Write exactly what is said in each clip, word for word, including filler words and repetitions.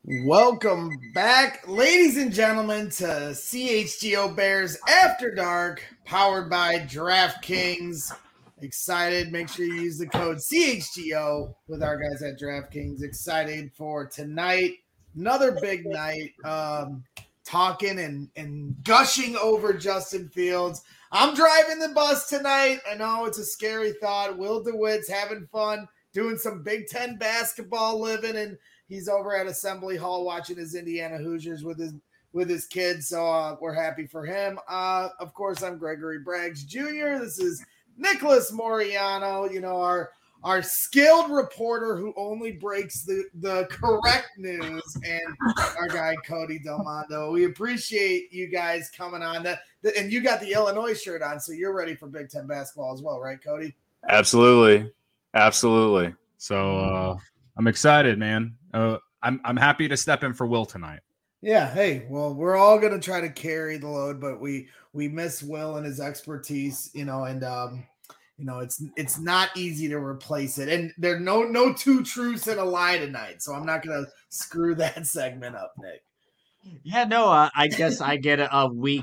Welcome back, ladies and gentlemen, to C H G O Bears After Dark, powered by DraftKings. Excited. Make sure you use the code C H G O with our guys at DraftKings. Excited for tonight. Another big night. Um, talking and, and gushing over Justin Fields. I'm driving the bus tonight. I know it's a scary thought. Will DeWitt's having fun, doing some Big Ten basketball living, and he's over at Assembly Hall watching his Indiana Hoosiers with his with his kids, so uh, we're happy for him. Uh, of course, I'm Gregory Braggs Junior This is Nicholas Moriano, you know, our our skilled reporter who only breaks the, the correct news, and our guy Cody Del Mondo. We appreciate you guys coming on. That and you got the Illinois shirt on, so you're ready for Big Ten basketball as well, right, Cody? Absolutely, absolutely. So uh, I'm excited, man. Uh, I'm I'm happy to step in for Will tonight. Yeah, hey, well, we're all gonna try to carry the load, but we we miss Will and his expertise, you know, and um, you know, it's it's not easy to replace it. And there are no no two truths and a lie tonight, so I'm not gonna screw that segment up, Nick. Yeah, no, uh, I guess I get a, a week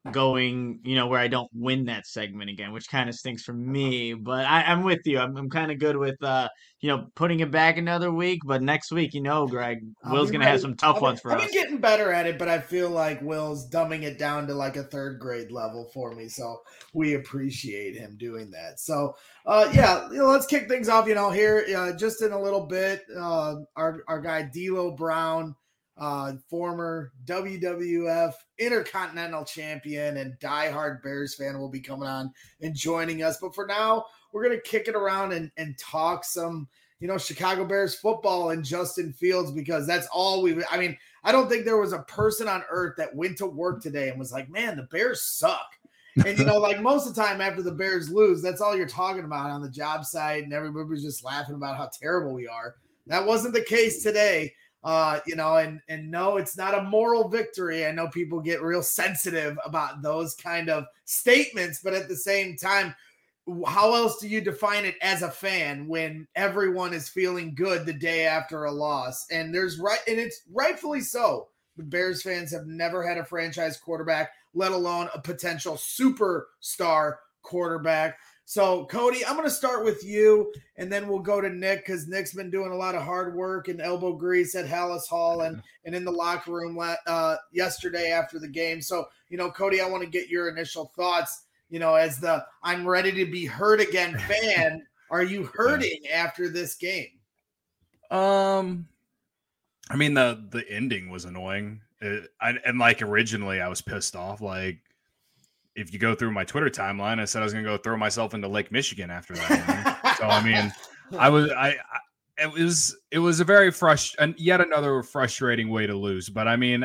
going, you know, where I don't win that segment again, which kind of stinks for me. But I, I'm with you. I'm, I'm kind of good with, uh, you know, putting it back another week. But next week, you know, Greg, I'll Will's be going to have ready. some tough I've ones been, for I've us. been getting better at it, but I feel like Will's dumbing it down to like a third grade level for me. So we appreciate him doing that. So, uh, yeah, you know, let's kick things off, you know, here uh, just in a little bit. Uh, our, our guy, D'Lo Brown, Uh, former W W F Intercontinental Champion and diehard Bears fan, will be coming on and joining us. But for now, we're going to kick it around and, and talk some, you know, Chicago Bears football and Justin Fields, because that's all we – I mean, I don't think there was a person on earth that went to work today and was like, man, the Bears suck. And, you know, like most of the time after the Bears lose, that's all you're talking about on the job site, and everybody's just laughing about how terrible we are. That wasn't the case today. Uh, you know, and and no, it's not a moral victory. I know people get real sensitive about those kind of statements, but at the same time, how else do you define it as a fan when everyone is feeling good the day after a loss? And there's right, and it's rightfully so. The Bears fans have never had a franchise quarterback, let alone a potential superstar quarterback. So, Cody, I'm going to start with you, and then we'll go to Nick, because Nick's been doing a lot of hard work and elbow grease at Hallis Hall and, and in the locker room uh, yesterday after the game. So, you know, Cody, I want to get your initial thoughts, you know, as the I'm ready to be hurt again fan. Are you hurting after this game? Um, I mean, the, the ending was annoying. It, I, and, like, originally I was pissed off, like, if you go through my Twitter timeline, I said I was going to go throw myself into Lake Michigan after that. So, I mean, I was, I, I, it was, it was a very frustrating, yet another frustrating way to lose. But I mean,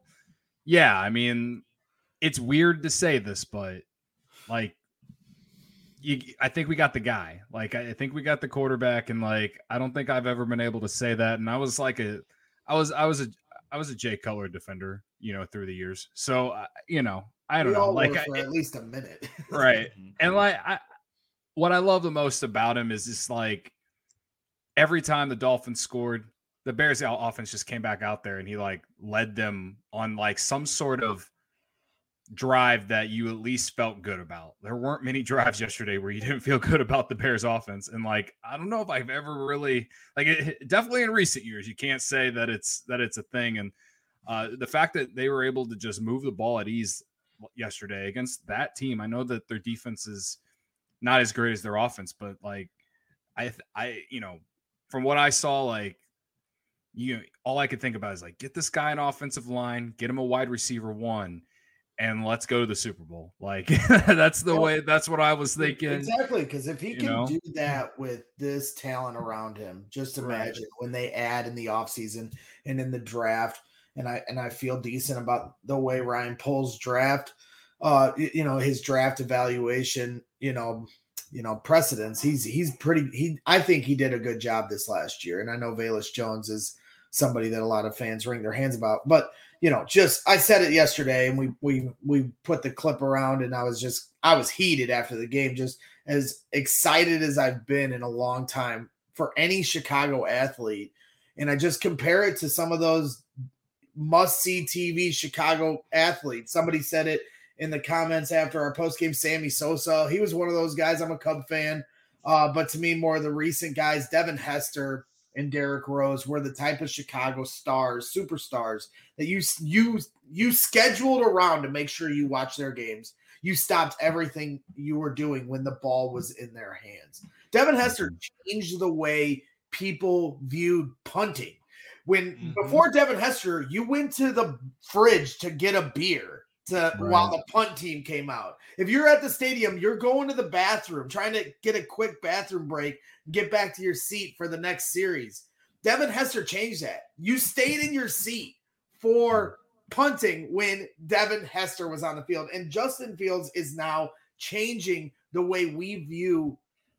yeah, I mean, it's weird to say this, but like, you, I think we got the guy. Like, I think we got the quarterback, and like, I don't think I've ever been able to say that. And I was like a, I was, I was a, I was a Jay Cutler defender, you know, through the years. So, uh, you know, I don't we know, all like were for I, at least a minute, right? And like, I, what I love the most about him is just like every time the Dolphins scored, the Bears offense just came back out there and he like led them on like some sort of drive that you at least felt good about. There weren't many drives yesterday where you didn't feel good about the Bears offense, and like I don't know if I've ever really like it, definitely in recent years you can't say that it's that it's a thing. And uh, the fact that they were able to just move the ball at ease yesterday against that team. I know that their defense is not as great as their offense, but like I, I, you know, from what I saw, like you, all I could think about is like, get this guy an offensive line, get him a wide receiver one, and let's go to the Super Bowl. Like that's the way, that's what I was thinking. Exactly. Cause if he you can know? do that with this talent around him, just imagine Right. when they add in the offseason and in the draft. And I and I feel decent about the way Ryan Poles draft, uh, you know, his draft evaluation, you know, you know, precedence. He's he's pretty. He I think he did a good job this last year, and I know Velus Jones is somebody that a lot of fans wring their hands about. But you know, just I said it yesterday, and we we we put the clip around, and I was just I was heated after the game, just as excited as I've been in a long time for any Chicago athlete and I just compare it to some of those must-see T V Chicago athletes. Somebody said it in the comments after our postgame, Sammy Sosa. He was one of those guys. I'm a Cub fan. Uh, but to me, more of the recent guys, Devin Hester and Derrick Rose, were the type of Chicago stars, superstars that you you you scheduled around to make sure you watch their games. You stopped everything you were doing when the ball was in their hands. Devin Hester changed the way people viewed punting. When mm-hmm. before Devin Hester, you went to the fridge to get a beer to right. while the punt team came out. If you're at the stadium, you're going to the bathroom, trying to get a quick bathroom break, get back to your seat for the next series. Devin Hester changed that. You stayed in your seat for punting when Devin Hester was on the field. And Justin Fields is now changing the way we view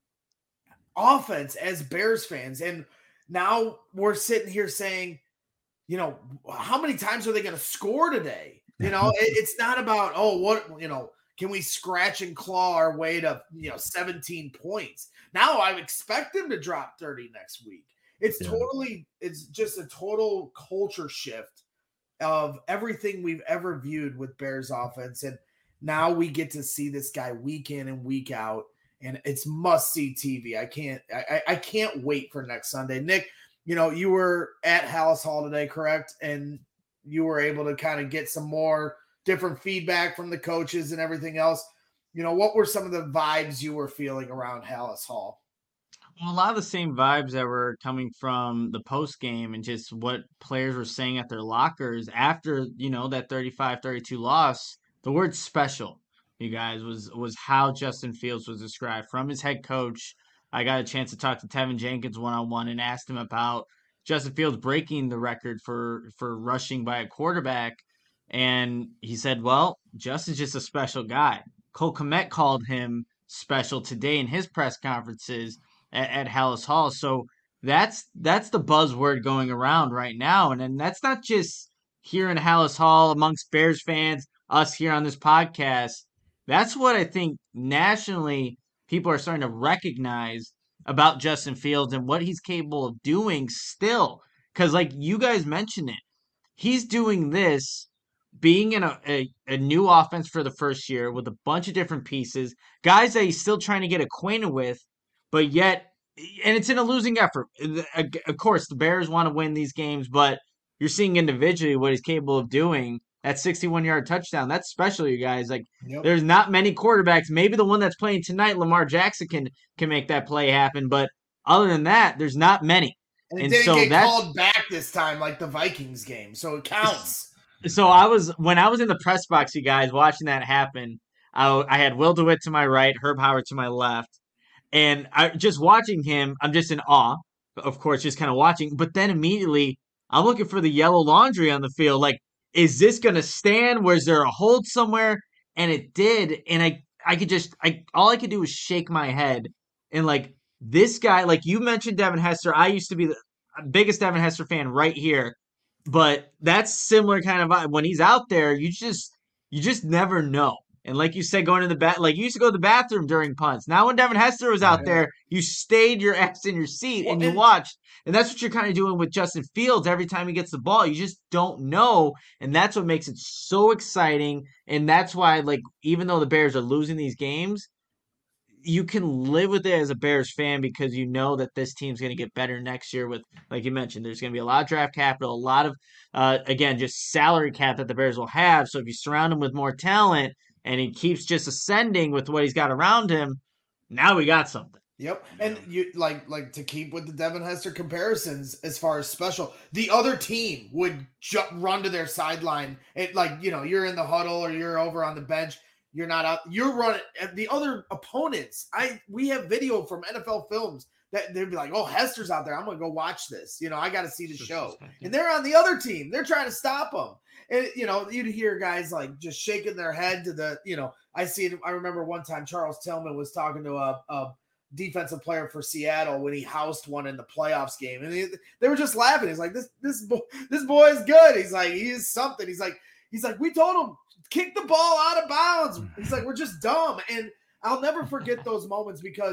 offense as Bears fans. And now we're sitting here saying, you know, how many times are they going to score today? You know, it, it's not about, oh, what, you know, can we scratch and claw our way to, you know, seventeen points? Now I expect them to drop thirty next week. It's yeah. totally, it's just a total culture shift of everything we've ever viewed with Bears offense. And now we get to see this guy week in and week out, and it's must-see T V. I can't, I, I can't wait for next Sunday. Nick, you know, you were at Halas Hall today, correct? And you were able to kind of get some more different feedback from the coaches and everything else. You know, what were some of the vibes you were feeling around Halas Hall? Well, a lot of the same vibes that were coming from the post game and just what players were saying at their lockers after, you know, that thirty-five thirty-two loss. The word special, you guys, was was how Justin Fields was described from his head coach. I got a chance to talk to Tevin Jenkins one-on-one and asked him about Justin Fields breaking the record for, for rushing by a quarterback. And he said, well, Justin's just a special guy. Cole Kmet called him special today in his press conferences at, at Halas Hall. So that's that's the buzzword going around right now. And, and that's not just here in Halas Hall amongst Bears fans, us here on this podcast. That's what I think nationally people are starting to recognize about Justin Fields and what he's capable of doing still. Because like you guys mentioned it, he's doing this being in a, a, a new offense for the first year with a bunch of different pieces, guys that he's still trying to get acquainted with, but yet, and it's in a losing effort. Of course, the Bears want to win these games, but you're seeing individually what he's capable of doing. That sixty-one-yard touchdown, that's special, you guys. Like, yep. There's not many quarterbacks. Maybe the one that's playing tonight, Lamar Jackson, can can make that play happen. But other than that, there's not many. And it and didn't so get called back this time like the Vikings game, so it counts. So I was when I was in the press box, you guys, watching that happen. I, I had Will DeWitt to my right, Herb Howard to my left, and I just watching him. I'm just in awe, of course, just kind of watching. But then immediately, I'm looking for the yellow laundry on the field, like. Is this going to stand? Was there a hold somewhere? And it did. And I, I could just, I all I could do was shake my head. And like this guy, like you mentioned Devin Hester. I used to be the biggest Devin Hester fan right here. But that's similar kind of vibe. When he's out there, you just, you just never know. And like you said, going to the bat, like you used to go to the bathroom during punts. Now when Devin Hester was out yeah. there, you stayed your ass in your seat well, and you and- watched. And that's what you're kind of doing with Justin Fields every time he gets the ball. You just don't know. And that's what makes it so exciting. And that's why, like, even though the Bears are losing these games, you can live with it as a Bears fan because you know that this team's going to get better next year with, like you mentioned, there's going to be a lot of draft capital, a lot of, uh, again, just salary cap that the Bears will have. So if you surround him with more talent and he keeps just ascending with what he's got around him, now we got something. Yep, and you like like to keep with the Devin Hester comparisons as far as special. The other team would ju- run to their sideline. It like you know you're in the huddle or you're over on the bench. You're not out. You're running. The other opponents. I we have video from N F L Films that they'd be like, "Oh, Hester's out there. I'm gonna go watch this. You know, I got to see the show." And they're on the other team. They're trying to stop them. And you know, you'd hear guys like just shaking their head to the. You know, I see it. I remember one time Charles Tillman was talking to a. a defensive player for Seattle when he housed one in the playoffs game, and he, they were just laughing. He's like, "This this boy, this boy is good." He's like, "He is something." He's like, "He's like, we told him kick the ball out of bounds." He's like, "We're just dumb." And I'll never forget those moments because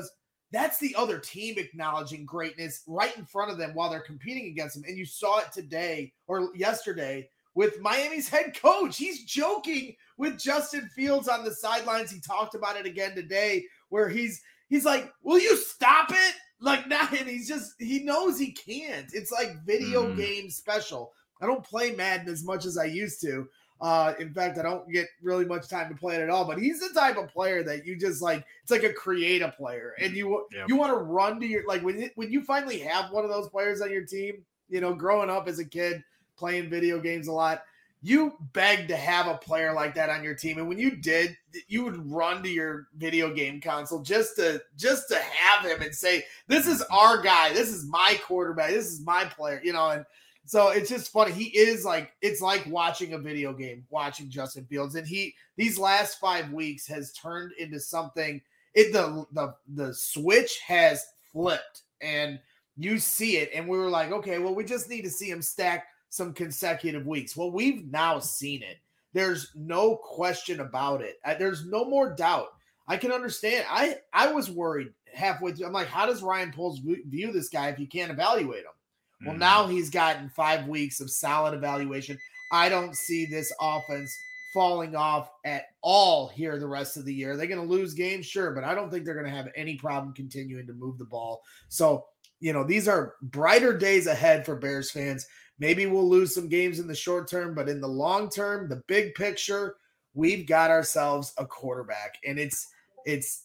that's the other team acknowledging greatness right in front of them while they're competing against them. And you saw it today or yesterday with Miami's head coach. He's joking with Justin Fields on the sidelines. He talked about it again today where he's he's like, will you stop it? Like, now, and he's just, he knows he can't. It's like video mm. game special. I don't play Madden as much as I used to. Uh, in fact, I don't get really much time to play it at all, but he's the type of player that you just like, it's like a creative player. And you, yep. you want to run to your, like when, it, when you finally have one of those players on your team, you know, growing up as a kid, playing video games a lot, you begged to have a player like that on your team. And when you did, you would run to your video game console just to, just to have him and say, this is our guy. This is my quarterback. This is my player, you know, and, so it's just funny. He is like, it's like watching a video game, watching Justin Fields. And he, these last five weeks has turned into something, it, the, the, the switch has flipped and you see it. And we were like, okay, well, we just need to see him stack some consecutive weeks. Well, we've now seen it. There's no question about it. There's no more doubt. I can understand. I, I was worried halfway through. I'm like, how does Ryan Poles view this guy if you can't evaluate him? Well, mm. now he's gotten five weeks of solid evaluation. I don't see this offense falling off at all here the rest of the year. They're going to lose games, sure, but I don't think they're going to have any problem continuing to move the ball. So, you know, these are brighter days ahead for Bears fans. Maybe we'll lose some games in the short term, but in the long term, the big picture, we've got ourselves a quarterback, and it's it's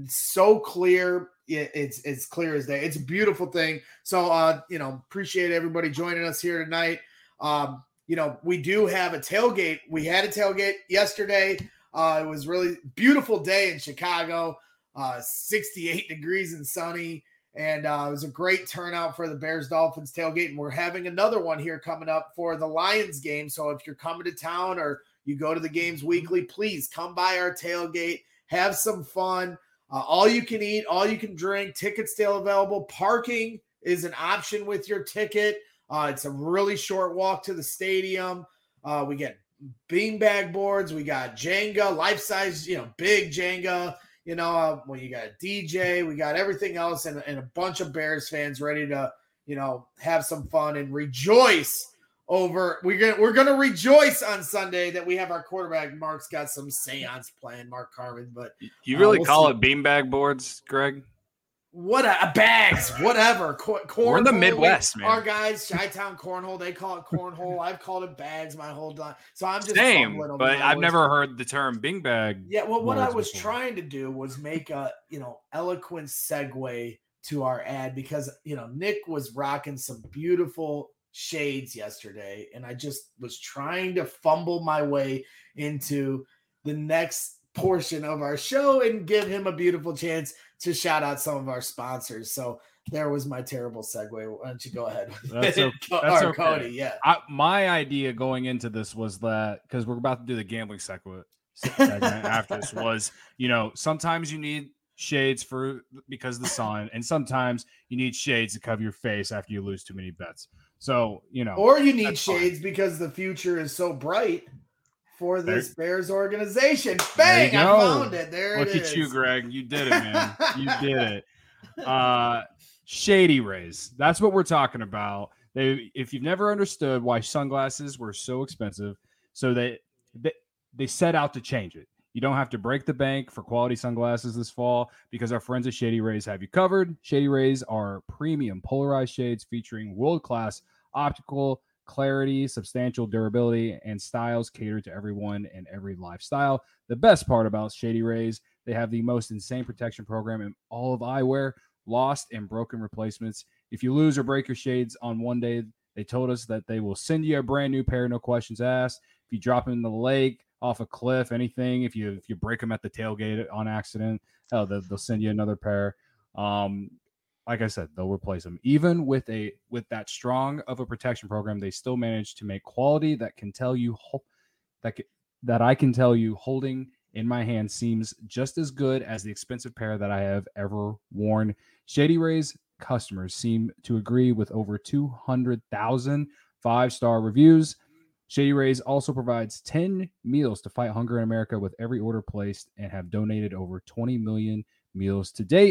so clear. It's it's clear as day. It's a beautiful thing. So, uh, you know, appreciate everybody joining us here tonight. Um, you know, we do have a tailgate. We had a tailgate yesterday. Uh, it was really beautiful day in Chicago, uh, sixty-eight degrees and sunny. And uh, it was a great turnout for the Bears Dolphins tailgate. And we're having another one here coming up for the Lions game. So if you're coming to town or you go to the games weekly, please come by our tailgate, have some fun. Uh, all you can eat, all you can drink, tickets still available. Parking is an option with your ticket. Uh, it's a really short walk to the stadium. Uh, we get beanbag boards. We got Jenga, life-size, you know, big Jenga. You know, uh, when you got a D J, we got everything else and, and a bunch of Bears fans ready to, you know, have some fun and rejoice over. We're gonna we're gonna rejoice on Sunday that we have our quarterback. Mark's got some seance planned, Mark Carvin. But you really uh, we'll call see. it beanbag boards, Greg? What a, bags, whatever. Cor- We're in the Midwest, we, man. Our guys, Chi-Town Cornhole, they call it cornhole. I've called it bags my whole time. So I'm just same, but I've never heard the term beanbag. Yeah, well, what I was before. trying to do was make a you know eloquent segue to our ad because you know Nick was rocking some beautiful shades yesterday, and I just was trying to fumble my way into the next portion of our show and give him a beautiful chance to shout out some of our sponsors. So there was my terrible segue. Why don't you go ahead? That's, okay. That's or okay. Cody, yeah. I, my idea going into this was that because we're about to do the gambling segment, segment after this was, you know, sometimes you need shades for because of the sun, and sometimes you need shades to cover your face after you lose too many bets. So, you know, or you need shades fine. because the future is so bright for this there, Bears organization. Bang! I found it. There Look it is. Look at you, Greg. You did it, man. You did it. Uh, Shady Rays. That's what we're talking about. They, if you've never understood why sunglasses were so expensive, so they, they they set out to change it. You don't have to break the bank for quality sunglasses this fall because our friends at Shady Rays have you covered. Shady Rays are premium polarized shades featuring world-class optical clarity, substantial durability, and styles cater to everyone and every lifestyle. The best part about Shady Rays, they have the most insane protection program in all of eyewear, lost and broken replacements. If you lose or break your shades on one day, they told us that they will send you a brand new pair, no questions asked. If you drop them in the lake, off a cliff, anything, if you if you break them at the tailgate on accident, oh, they'll, they'll send you another pair. Um, Like I said, they'll replace them. Even with a with that strong of a protection program, they still manage to make quality that can tell you that that I can tell you holding in my hand seems just as good as the expensive pair that I have ever worn. Shady Rays customers seem to agree with over two hundred thousand five-star reviews. Shady Rays also provides ten meals to fight hunger in America with every order placed and have donated over twenty million meals to date.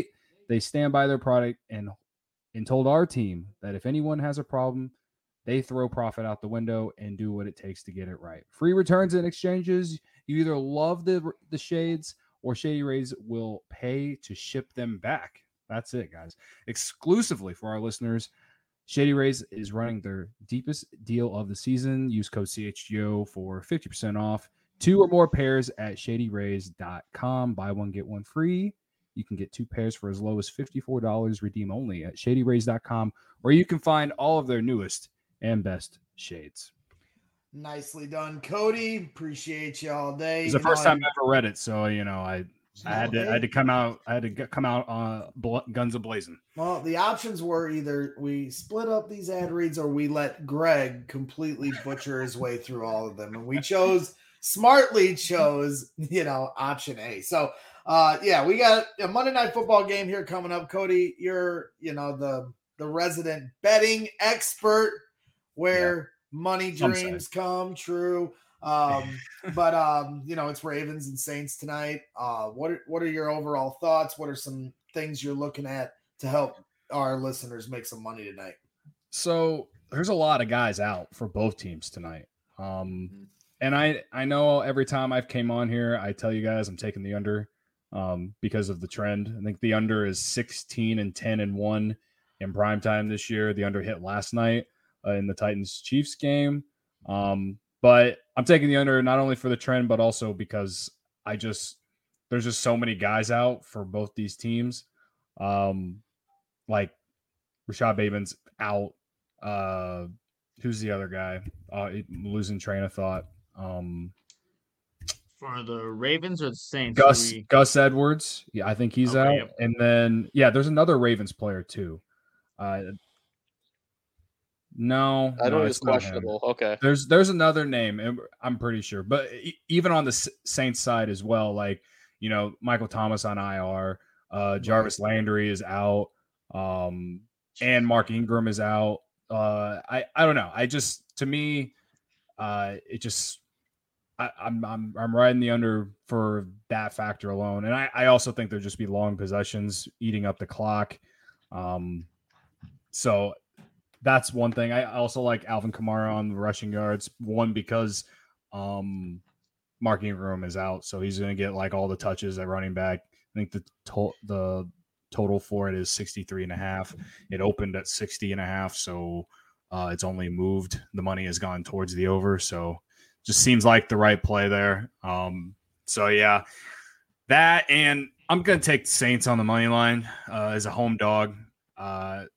They stand by their product and and told our team that if anyone has a problem, they throw profit out the window and do what it takes to get it right. Free returns and exchanges. You either love the the shades or Shady Rays will pay to ship them back. That's it, guys. Exclusively for our listeners, Shady Rays is running their deepest deal of the season. Use code C H G O for fifty percent off. Two or more pairs at shady rays dot com. Buy one, get one free. You can get two pairs for as low as fifty-four dollars. Redeem only at shady rays dot com, where you can find all of their newest and best shades. Nicely done, Cody. Appreciate you all day. It's the You first know, time I ever read it, so you know I I had to I had to come out I had to get, come out uh bl- guns a blazing. Well, the options were either we split up these ad reads or we let Greg completely butcher his way through all of them, and we chose smartly chose you know option A. So uh yeah, we got a Monday Night Football game here coming up. Cody, you're you know the the resident betting expert where yeah. money dreams come true. Um, but um, you know, it's Ravens and Saints tonight. Uh, what are, what are your overall thoughts? What are some things you're looking at to help our listeners make some money tonight? So there's a lot of guys out for both teams tonight. Um, mm-hmm. And I I know every time I've came on here, I tell you guys I'm taking the under um, because of the trend. I think the under is sixteen and ten and one in prime time this year. The under hit last night uh, in the Titans Chiefs game. Um, But I'm taking the under not only for the trend, but also because I just there's just so many guys out for both these teams. Um, like Rashad Bateman's out. Uh, who's the other guy? Uh, losing train of thought. Um, for the Ravens or the Saints? Gus we... Gus Edwards. Yeah, I think he's okay, out. yep. And then yeah, there's another Ravens player too. Uh, No, I don't no, know. It's questionable. Him. Okay. There's there's another name. I'm pretty sure, but even on the Saints side as well, like you know, Michael Thomas on I R, uh, Jarvis Landry is out, um, and Mark Ingram is out. Uh, I I don't know. I just to me, uh, it just I, I'm I'm I'm riding the under for that factor alone, and I I also think there'll just be long possessions eating up the clock. Um, so. That's one thing. I also like Alvin Kamara on the rushing yards. One, because um, Mark Ingram is out, so he's going to get like all the touches at running back. I think the to- the total for it is sixty-three and a half. It opened at sixty and a half, so uh, it's only moved. The money has gone towards the over, so just seems like the right play there. Um, so yeah, that, and I'm going to take the Saints on the money line uh, as a home dog. Uh,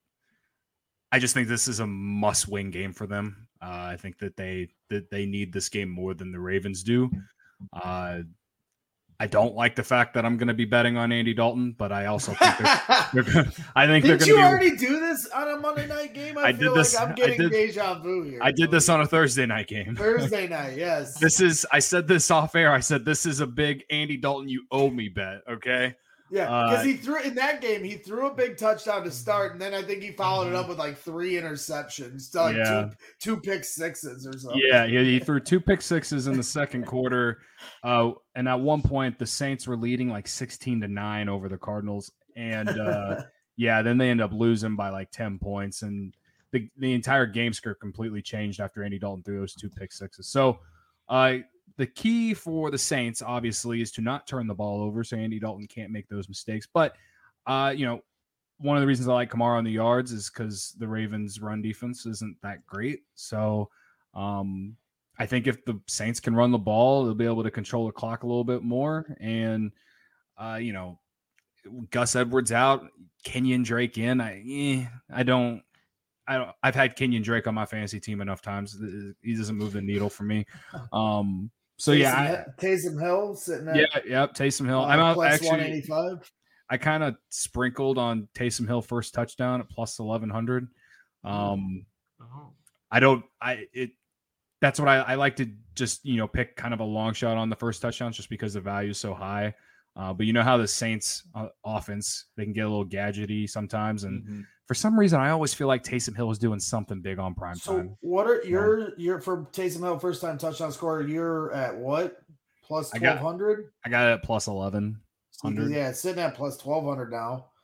I just think this is a must-win game for them. Uh, I think that they that they need this game more than the Ravens do. Uh, I don't like the fact that I'm going to be betting on Andy Dalton, but I also think they're, they're gonna, I think Did they're going to. you be, already do this on a Monday night game? I, I feel did this. Like I'm getting I did, deja vu here. I did this on a Thursday night game. Thursday night, yes. This is. I said this off air. I said this is a big Andy Dalton you owe me bet. Okay. Yeah, because uh, he threw in that game. He threw a big touchdown to start, and then I think he followed it up with like three interceptions, to like yeah. two, two pick sixes or something. Yeah, he, he threw two pick sixes in the second quarter, uh, and at one point the Saints were leading like sixteen to nine over the Cardinals, and uh, yeah, then they end up losing by like ten points, and the the entire game script completely changed after Andy Dalton threw those two pick sixes. So, uh, the key for the Saints, obviously, is to not turn the ball over so Andy Dalton can't make those mistakes. But, uh, you know, one of the reasons I like Kamara on the yards is because the Ravens' run defense isn't that great. So um, I think if the Saints can run the ball, they'll be able to control the clock a little bit more. And, uh, you know, Gus Edwards out, Kenyon Drake in. I, eh, I don't. I don't, I've had Kenyon Drake on my fantasy team enough times. He doesn't move the needle for me. Um, so Taysom, yeah, I, Taysom Hill sitting at yeah, yep, Taysom Hill. Uh, I'm out plus actually. one eighty-five. I kind of sprinkled on Taysom Hill first touchdown at plus eleven hundred. Um, Oh. I don't. I it. That's what I, I like to just you know pick kind of a long shot on the first touchdown just because the value is so high. Uh, but you know how the Saints uh, offense, they can get a little gadgety sometimes, and Mm-hmm. for some reason, I always feel like Taysom Hill is doing something big on prime So time. what are your your for Taysom Hill first time touchdown scorer? You're at what? Plus I got- twelve hundred? I got it at plus eleven hundred. Yeah, it's sitting at plus twelve hundred now.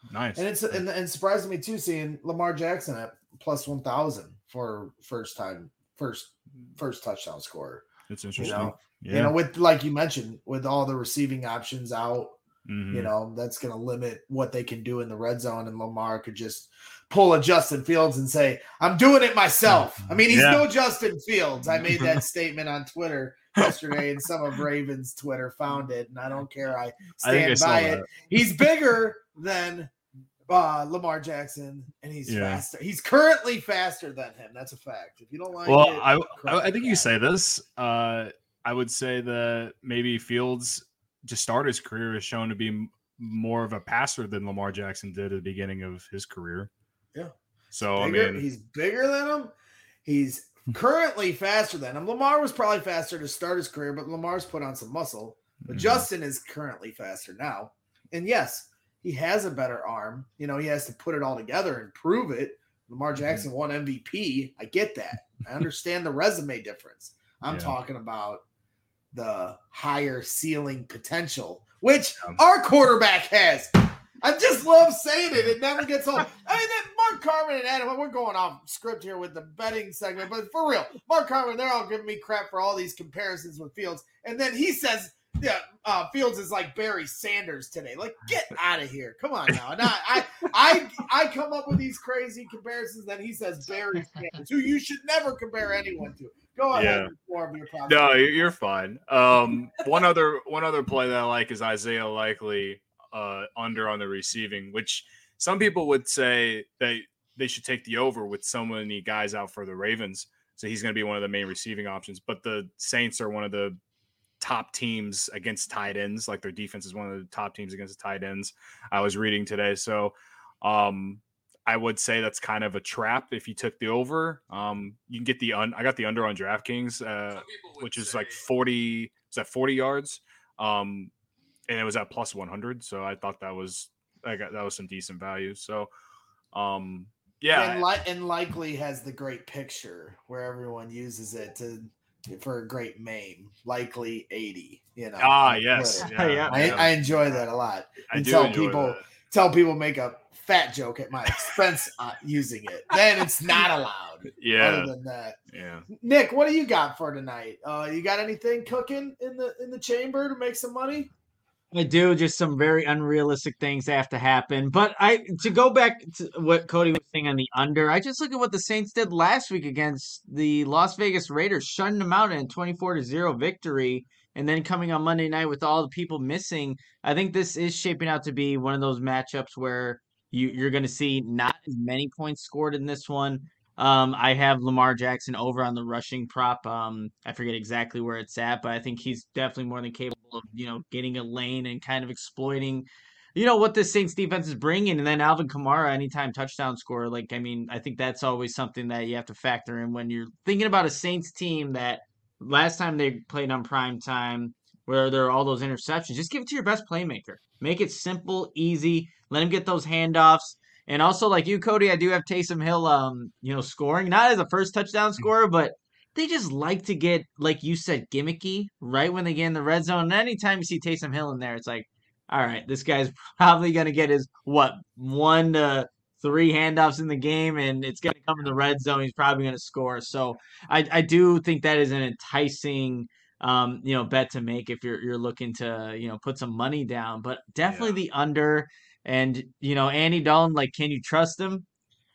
Nice. And it's and, and surprised me too seeing Lamar Jackson at plus one thousand for first time first first touchdown scorer. It's interesting. You know, yeah. you know, with like you mentioned, with all the receiving options out, mm-hmm. you know, that's going to limit what they can do in the red zone. And Lamar could just pull a Justin Fields and say, "I'm doing it myself." I mean, he's yeah. no Justin Fields. I made that statement on Twitter yesterday, and some of Ravens Twitter found it, and I don't care. I stand I by I it. He's bigger than uh, Lamar Jackson, and he's yeah. faster. He's currently faster than him. That's a fact. If you don't like well, it, I I, I think you say this. Uh, I would say that maybe Fields, to start his career, is shown to be more of a passer than Lamar Jackson did at the beginning of his career. Yeah. So bigger, I mean, he's bigger than him. He's currently faster than him. Lamar was probably faster to start his career, but Lamar's put on some muscle. But mm-hmm. Justin is currently faster now. And yes, he has a better arm. You know, he has to put it all together and prove it. Lamar Jackson mm-hmm. won M V P. I get that. I understand the resume difference. I'm yeah. talking about the higher ceiling potential, which um, our quarterback has. I just love saying it. It never gets old. I mean, that Mark Carman and Adam, we're going off script here with the betting segment, but for real, Mark Carman, they're all giving me crap for all these comparisons with Fields. And then he says, yeah, uh, Fields is like Barry Sanders today. Like, get out of here. Come on now. And I, I, I, I come up with these crazy comparisons, then he says Barry Sanders, who you should never compare anyone to. Go ahead. Yeah. Perform your problem. No, you're fine. Um, one other one other play that I like is Isaiah Likely uh, under on the receiving, which some people would say they they should take the over with so many guys out for the Ravens. So he's going to be one of the main receiving options. But the Saints are one of the top teams against tight ends. Like their defense is one of the top teams against tight ends. I was reading today. So um, I would say that's kind of a trap if you took the over. Um, you can get the un- – I got the under on DraftKings, uh, which is like forty – is that forty yards? Um, and it was at plus one hundred. So I thought that was I got, that was some decent value. So, um, yeah. And, li- and Likely has the great picture where everyone uses it to – for a great meme, Likely eighty, you know. Ah, yes. Yeah, yeah. I, I enjoy that a lot. I and do tell enjoy people that. tell people make a fat joke at my expense uh, using it. Then it's not allowed. Yeah. Other than that. Yeah. Nick, what do you got for tonight? Uh, you got anything cooking in the in the chamber to make some money? I do. Just some very unrealistic things have to happen. But I to go back to what Cody was saying on the under, I just look at what the Saints did last week against the Las Vegas Raiders, shutting them out in a twenty-four to zero victory, and then coming on Monday night with all the people missing. I think this is shaping out to be one of those matchups where you, you're going to see not as many points scored in this one. Um, I have Lamar Jackson over on the rushing prop. Um, I forget exactly where it's at, but I think he's definitely more than capable of, you know, getting a lane and kind of exploiting, you know, what the Saints defense is bringing. And then Alvin Kamara, anytime touchdown scorer, like, I mean, I think that's always something that you have to factor in when you're thinking about a Saints team that last time they played on prime time, where there are all those interceptions, just give it to your best playmaker. Make it simple, easy. Let him get those handoffs. And also, like you, Cody, I do have Taysom Hill, um, you know, scoring, not as a first touchdown scorer, but they just like to get, like you said, gimmicky right when they get in the red zone. And anytime you see Taysom Hill in there, it's like, all right, this guy's probably going to get his, what, one to three handoffs in the game, and it's going to come in the red zone. He's probably going to score. So I, I do think that is an enticing, um, you know, bet to make if you're you're looking to, you know, put some money down. But definitely yeah. the under. And, you know, Andy Dalton, like, can you trust him?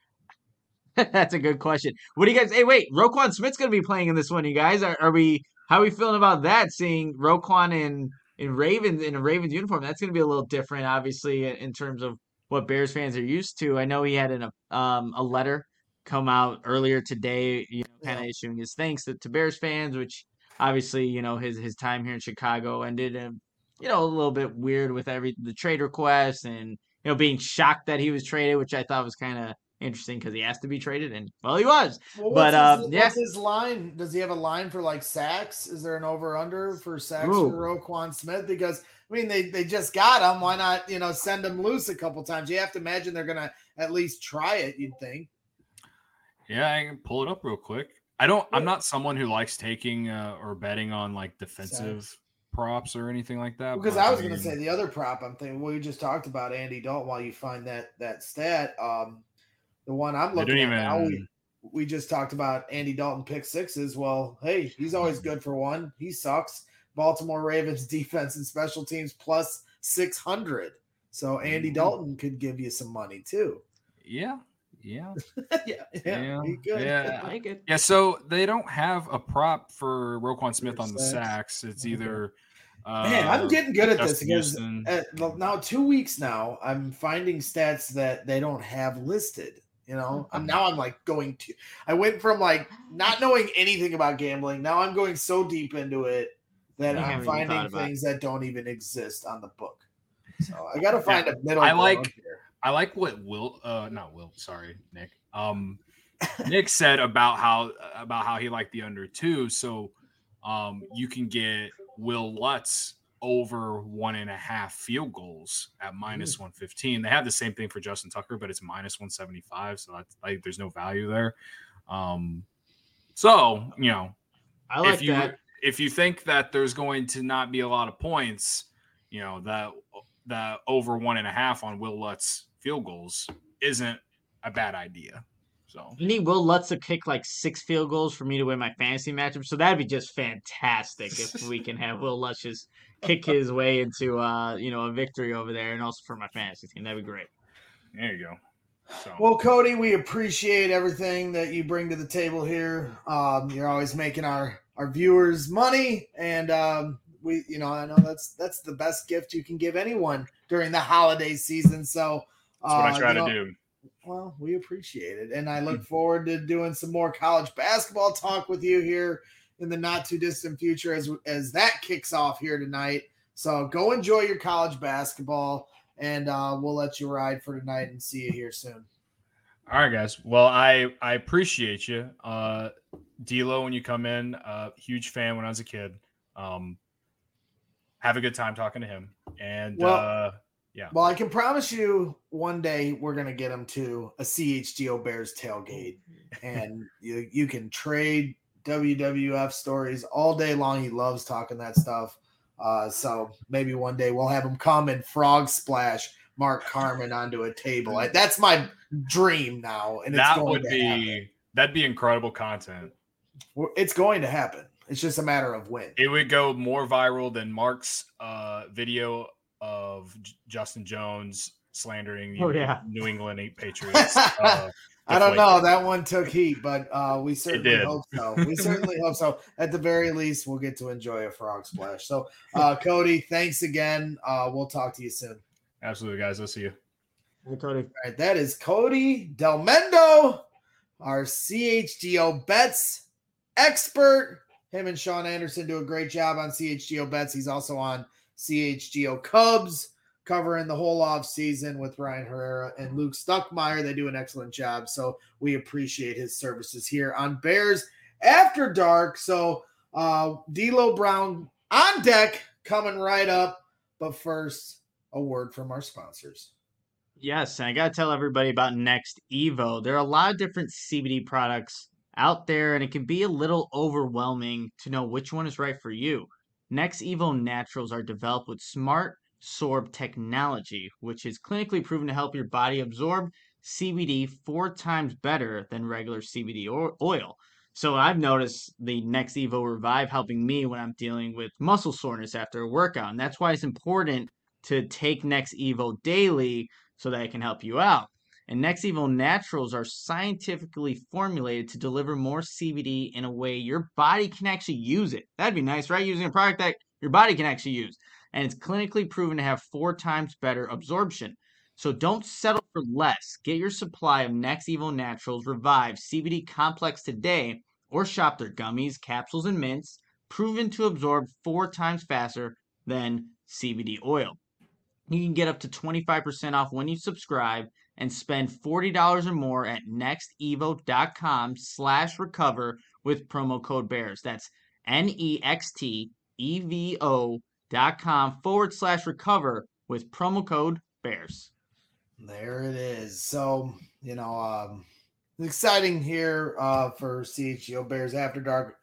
That's a good question. What do you guys – hey, wait, Roquan Smith's going to be playing in this one, you guys. Are, are we – how are we feeling about that, seeing Roquan in, in Ravens in a Ravens uniform? That's going to be a little different, obviously, in, in terms of what Bears fans are used to. I know he had an, um, a letter come out earlier today, you know, kind of yeah. issuing his thanks to, to Bears fans, which obviously, you know, his, his time here in Chicago ended in – you know, a little bit weird with every the trade request and, you know, being shocked that he was traded, which I thought was kind of interesting because he has to be traded, and well, he was. Well, but what's uh, his, yeah, what's his line? Does he have a line for like sacks? Is there an over under for sacks Ooh. for Roquan Smith? Because I mean, they they just got him. Why not, you know, send him loose a couple times? You have to imagine they're gonna at least try it. You'd think. Yeah, I can pull it up real quick. I don't. I'm not someone who likes taking uh, or betting on like defensive. Sacks. props or anything like that. Because but, I was mean, going to say the other prop. I'm thinking we just talked about Andy Dalton. While you find that that stat, um, the one I'm looking at even, now, we we just talked about Andy Dalton pick sixes. Well, hey, he's always good for one. He sucks. Baltimore Ravens defense and special teams plus six hundred. So Andy Dalton could give you some money too. Yeah. Yeah. yeah. Yeah. Yeah. Yeah. I get yeah. So they don't have a prop for Roquan Smith on the sacks. It's either. Uh, Man, I'm getting good at this because Houston. at, now two weeks now, I'm finding stats that they don't have listed. You know, I'm now I'm like going to. I went from like not knowing anything about gambling. Now I'm going so deep into it that I I'm haven't even finding thought about things that don't even exist on the book. So I got to find Yeah, a middle. I ground like. here. I like what Will. Uh, not Will. Sorry, Nick. Um, Nick said about how about how he liked the under two. So, um, you can get Will Lutz over one and a half field goals at minus one fifteen. They have the same thing for Justin Tucker, but it's minus one seventy five. So that's like there's no value there. Um, so you know, I like if you that. if you think that there's going to not be a lot of points, you know that that over one and a half on Will Lutz field goals isn't a bad idea. So I need Will Lutz to kick like six field goals for me to win my fantasy matchup. So that'd be just fantastic if we can have Will Lutz just kick his way into uh, you know, a victory over there, and also for my fantasy team. That'd be great. there you go. So Well, Cody, we appreciate everything that you bring to the table here. Um, you're always making our, our viewers money, and um, we, you know, I know that's that's the best gift you can give anyone during the holiday season. So that's what uh, I try you to know, do. Well, we appreciate it, and I look forward to doing some more college basketball talk with you here in the not too distant future as as that kicks off here tonight. So go enjoy your college basketball. And uh, we'll let you ride for tonight and see you here soon. All right, guys. Well, I I appreciate you, uh, D'Lo, when you come in. Uh, huge fan when I was a kid. Um, have a good time talking to him. And well, uh, yeah. Well, I can promise you, one day we're gonna get him to a C H G O Bears tailgate, and you you can trade W W F stories all day long. He loves talking that stuff. Uh, so maybe one day we'll have him come and frog splash Mark Carman onto a table. I, that's my dream now, and that it's going would to be happen. That'd be incredible content. It's going to happen. It's just a matter of when. It would go more viral than Mark's uh, video of J- Justin Jones slandering the Oh, yeah. New England eight Patriots. Uh, I don't know. That one took heat, but uh, we certainly did. hope so. We certainly hope so. At the very least, we'll get to enjoy a frog splash. So, uh, Cody, thanks again. Uh, we'll talk to you soon. Absolutely, guys. I'll see you. Hey, Cody. All right, that is Cody Delmendo, our C H G O Bets expert. Him and Sean Anderson do a great job on C H G O Bets. He's also on C H G O Cubs, covering the whole off season with Ryan Herrera and Luke Stuckmeyer. They do an excellent job. So we appreciate his services here on Bears After Dark. So uh, D'Lo Brown on deck, coming right up. But first, a word from our sponsors. Yes, and I got to tell everybody about Next Evo. There are a lot of different C B D products out there, and it can be a little overwhelming to know which one is right for you. Next Evo Naturals are developed with smart Sorb technology, which is clinically proven to help your body absorb C B D four times better than regular C B D oil. So I've noticed the Next Evo Revive helping me when I'm dealing with muscle soreness after a workout. And that's why it's important to take Next Evo daily so that it can help you out. And Next Evo Naturals are scientifically formulated to deliver more C B D in a way your body can actually use it. That'd be nice, right? Using a product that your body can actually use. And it's clinically proven to have four times better absorption. So don't settle for less. Get your supply of Next Evo Naturals Revive C B D Complex today, or shop their gummies, capsules, and mints, proven to absorb four times faster than C B D oil. You can get up to twenty-five percent off when you subscribe and spend forty dollars or more at nextevo.com slash recover with promo code BEARS. That's N-E-X-T-E-V-O dot com forward slash recover with promo code BEARS. There it is. So, you know, um, exciting here uh, for C H G O Bears After Dark.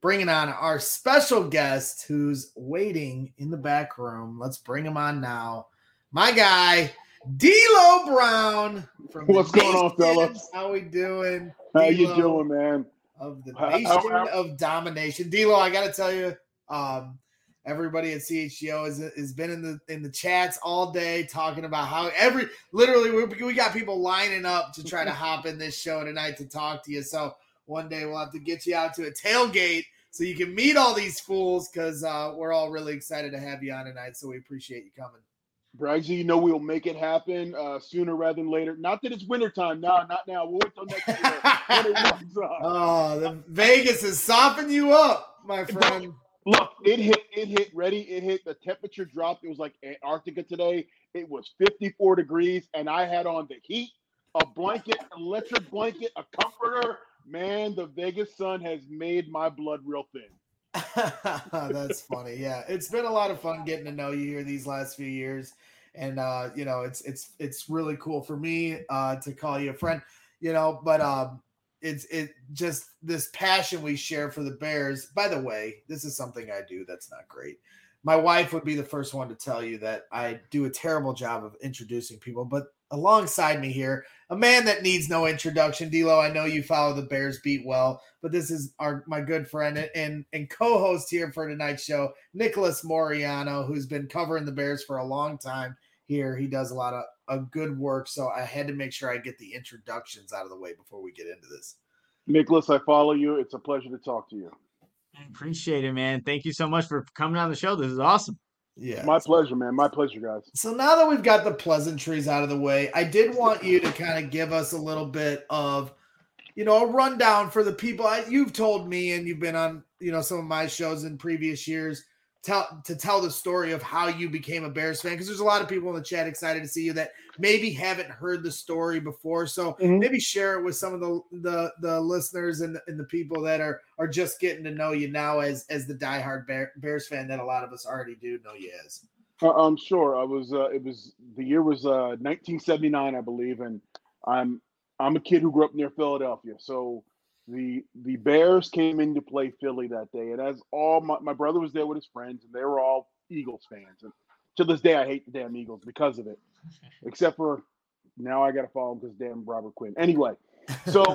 bringing on our special guest who's waiting in the back room. Let's bring him on now. My guy, D'Lo Brown. From What's going on, fellas? How we doing? How D-Lo you doing, man? Of the How- Nation how- how- of Domination. D'Lo, I got to tell you, um, everybody at C H G O has, has been in the in the chats all day talking about how every literally we, we got people lining up to try to hop in this show tonight to talk to you. So one day we'll have to get you out to a tailgate so you can meet all these fools because uh, we're all really excited to have you on tonight. So we appreciate you coming. Braggsy, you know we'll make it happen uh, sooner rather than later. Not that it's wintertime. No, not now. We'll wait till next year when it warms up. Oh, the Vegas has softened you up, my friend. Look, it hit, it hit ready. It hit, the temperature dropped. It was like Antarctica today. It was fifty-four degrees, and I had on the heat, a blanket, electric blanket, a comforter. Man, the Vegas sun has made my blood real thin. That's funny. Yeah, it's been a lot of fun getting to know you here these last few years, and uh, you know, it's it's it's really cool for me uh, to call you a friend. You know, but um, it's it just this passion we share for the Bears. By the way, this is something I do that's not great. My wife would be the first one to tell you that I do a terrible job of introducing people, but alongside me here, a man that needs no introduction. D'Lo, I know you follow the Bears beat well, but this is our my good friend and, and co-host here for tonight's show, Nicholas Moriano, who's been covering the Bears for a long time here. He does a lot of, of good work, so I had to make sure I get the introductions out of the way before we get into this. Nicholas, I follow you. It's a pleasure to talk to you. I appreciate it, man. Thank you so much for coming on the show. This is awesome. Yeah, My pleasure, man. My pleasure, guys. So now that we've got the pleasantries out of the way, I did want you to kind of give us a little bit of, you know, a rundown for the people. I, you've told me, and you've been on, you know, some of my shows in previous years, tell to tell the story of how you became a Bears fan, because there's a lot of people in the chat excited to see you that maybe haven't heard the story before. So Mhm. maybe share it with some of the the, the listeners and the, and the people that are are just getting to know you now as as the diehard Bear, Bears fan that a lot of us already do know you as. Uh, I'm sure. I was. Uh, it was the year was uh, nineteen seventy-nine, I believe, and I'm I'm a kid who grew up near Philadelphia. So the the Bears came in to play Philly that day, and as all my, my brother was there with his friends, and they were all Eagles fans. And to this day, I hate the damn Eagles because of it. Except for now, I got to follow them because damn Robert Quinn. Anyway, so.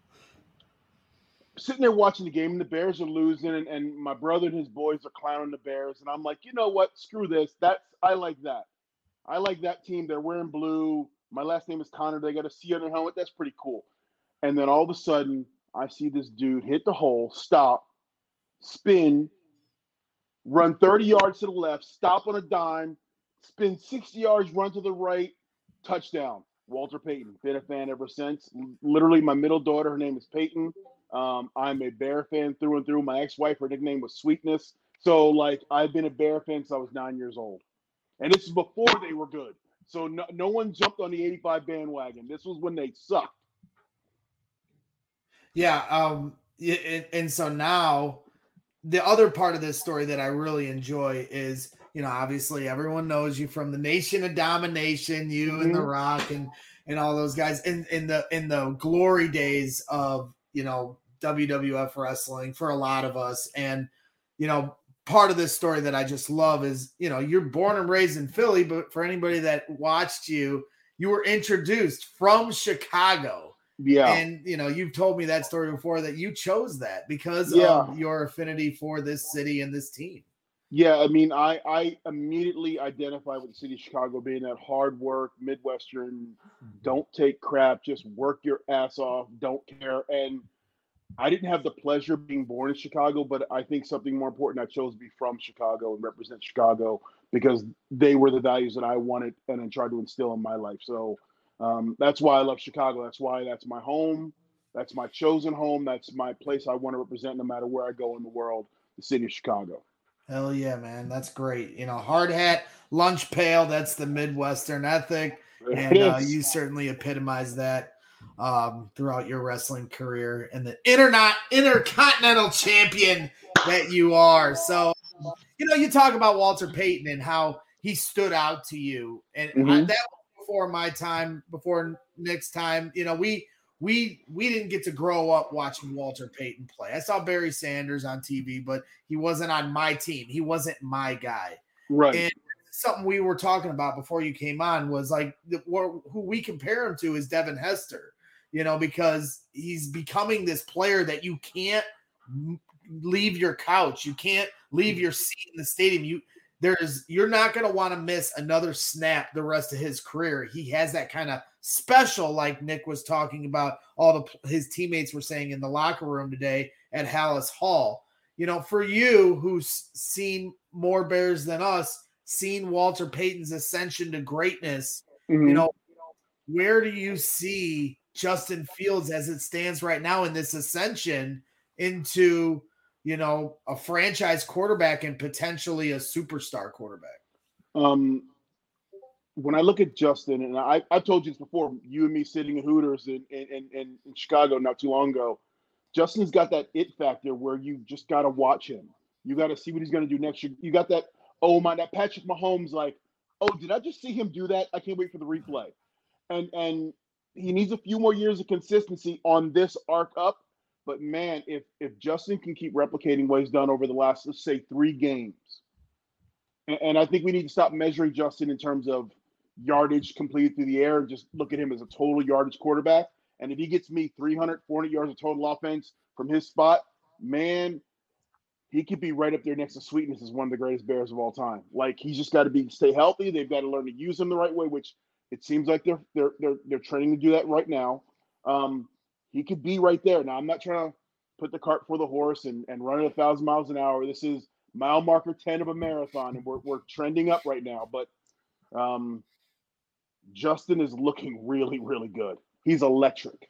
Sitting there watching the game, and the Bears are losing, and, and my brother and his boys are clowning the Bears, and I'm like, you know what? Screw this. That's I like that. I like that team. They're wearing blue. My last name is Connor. They got a C on their helmet. That's pretty cool. And then all of a sudden, I see this dude hit the hole, stop, spin, run thirty yards to the left, stop on a dime, spin sixty yards, run to the right, touchdown. Walter Payton. Been a fan ever since. Literally, my middle daughter, her name is Peyton. Um, I'm a Bear fan through and through. My ex-wife, her nickname was Sweetness. So, like, I've been a Bear fan since I was nine years old. And this is before they were good. So no, no one jumped on the eighty-five bandwagon. This was when they sucked. Yeah, um, and, and so now the other part of this story that I really enjoy is, you know, obviously everyone knows you from the Nation of Domination, you mm-hmm. and The Rock and and all those guys in in the in the glory days of, you know, W W F wrestling for a lot of us. And, you know, part of this story that I just love is, you know, you're born and raised in Philly, but for anybody that watched you, you were introduced from Chicago. Yeah. And, you know, you've told me that story before that you chose that because yeah. of your affinity for this city and this team. Yeah. I mean, I, I immediately identify with the city of Chicago being that hard work, Midwestern, don't take crap, just work your ass off, don't care. And I didn't have the pleasure of being born in Chicago, but I think something more important, I chose to be from Chicago and represent Chicago because they were the values that I wanted and then tried to instill in my life. So um, that's why I love Chicago. That's why that's my home. That's my chosen home. That's my place I want to represent no matter where I go in the world, the city of Chicago. Hell yeah, man. That's great. You know, hard hat, lunch pail, that's the Midwestern ethic. And uh, you certainly epitomize that um, throughout your wrestling career and the internet intercontinental champion that you are. So, you know, you talk about Walter Payton and how he stood out to you. And mm-hmm. I, that was before my time, before Nick's time. You know, we we we didn't get to grow up watching Walter Payton play. I saw Barry Sanders on T V, but he wasn't on my team. He wasn't my guy. Right. And something we were talking about before you came on was like the, who we compare him to is Devin Hester, you know, because he's becoming this player that you can't leave your couch. You can't leave your seat in the stadium. You there's you're not going to want to miss another snap the rest of his career. He has that kind of special, like Nick was talking about, all the his teammates were saying in the locker room today at Hallis Hall. You know, for you who's seen more Bears than us, seen Walter Payton's ascension to greatness, Mm-hmm. you know, where do you see Justin Fields as it stands right now in this ascension into, you know, a franchise quarterback and potentially a superstar quarterback? Um, when I look at Justin, and I, I told you this before, you and me sitting in Hooters in, in, in, in Chicago not too long ago, Justin's got that it factor where you just got to watch him. You got to see what he's going to do next year. You got that, oh my, that Patrick Mahomes, like, oh, did I just see him do that? I can't wait for the replay. And and he needs a few more years of consistency on this arc up. But man, if if Justin can keep replicating what he's done over the last, let's say, three games, and, and I think we need to stop measuring Justin in terms of yardage completed through the air and just look at him as a total yardage quarterback. And if he gets me three hundred, four hundred yards of total offense from his spot, man, he could be right up there next to Sweetness as one of the greatest Bears of all time. Like, he's just got to be stay healthy. They've got to learn to use him the right way, which it seems like they're they're they're they're training to do that right now. Um, he could be right there. Now, I'm not trying to put the cart before the horse and, and run at a thousand miles an hour. This is mile marker ten of a marathon, and we're we're trending up right now. But um, Justin is looking really, really good. He's electric.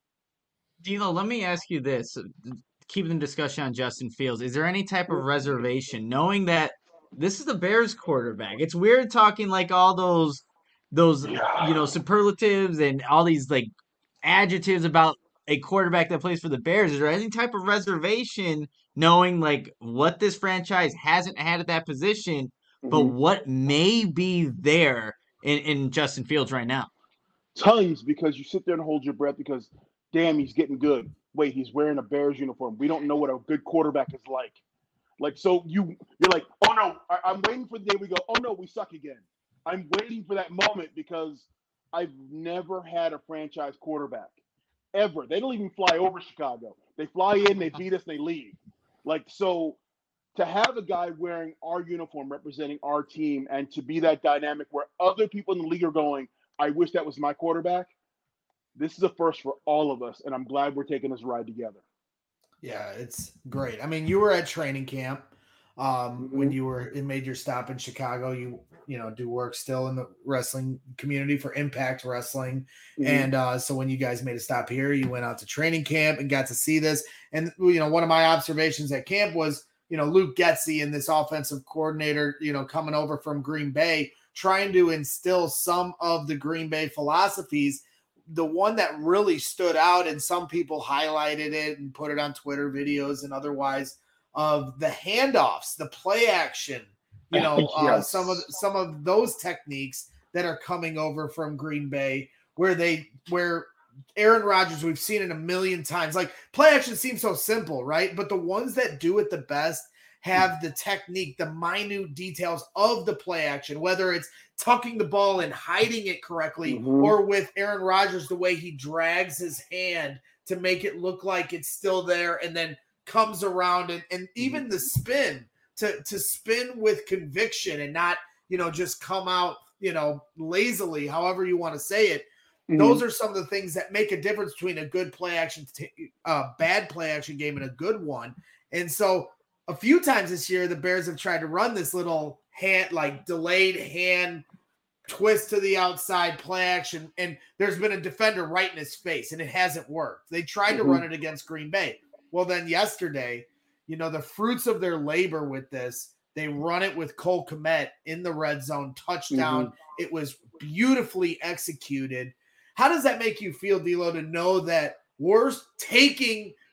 D'Lo, let me ask you this. Keeping the discussion on Justin Fields, is there any type of reservation knowing that this is the Bears quarterback? It's weird talking like all those those you know superlatives and all these like adjectives about a quarterback that plays for the Bears. Is there any type of reservation knowing like what this franchise hasn't had at that position, but Mhm. what may be there in, in Justin Fields right now? Tons, because you sit there and hold your breath because, damn, he's getting good. Wait, he's wearing a Bears uniform. We don't know what a good quarterback is like. Like, so you, you're like, oh, no, I, I'm waiting for the day we go, oh, no, we suck again. I'm waiting for that moment because I've never had a franchise quarterback, ever. They don't even fly over Chicago. They fly in, they beat us, they leave. Like, so to have a guy wearing our uniform representing our team and to be that dynamic where other people in the league are going, I wish that was my quarterback. This is a first for all of us, and I'm glad we're taking this ride together. Yeah, it's great. I mean, you were at training camp um, Mm-hmm. when you were it made your stop in Chicago. You you know do work still in the wrestling community for Impact Wrestling, Mhm. and uh, so when you guys made a stop here, you went out to training camp and got to see this. And you know, one of my observations at camp was you know Luke Getsy and this offensive coordinator, you know, coming over from Green Bay, trying to instill some of the Green Bay philosophies. The one that really stood out, and some people highlighted it and put it on Twitter videos and otherwise, of the handoffs, the play action, you know, uh, Yes. some of some of those techniques that are coming over from Green Bay, where they where Aaron Rodgers, we've seen it a million times. Like, play action seems so simple, right? But the ones that do it the best have the technique, the minute details of the play action, whether it's tucking the ball and hiding it correctly, Mhm. or with Aaron Rodgers, the way he drags his hand to make it look like it's still there and then comes around, and, and even the spin to, to spin with conviction and not, you know, just come out, you know, lazily, however you want to say it. Mhm. Those are some of the things that make a difference between a good play action, t- uh, bad play action game and a good one. And so a few times this year, the Bears have tried to run this little hand, like delayed hand twist to the outside play action. And there's been a defender right in his face, and it hasn't worked. They tried to Mhm. run it against Green Bay. Well, then yesterday, you know, the fruits of their labor with this, they run it with Cole Kmet in the red zone touchdown. It was beautifully executed. How does that make you feel, D'Lo, to know that we're taking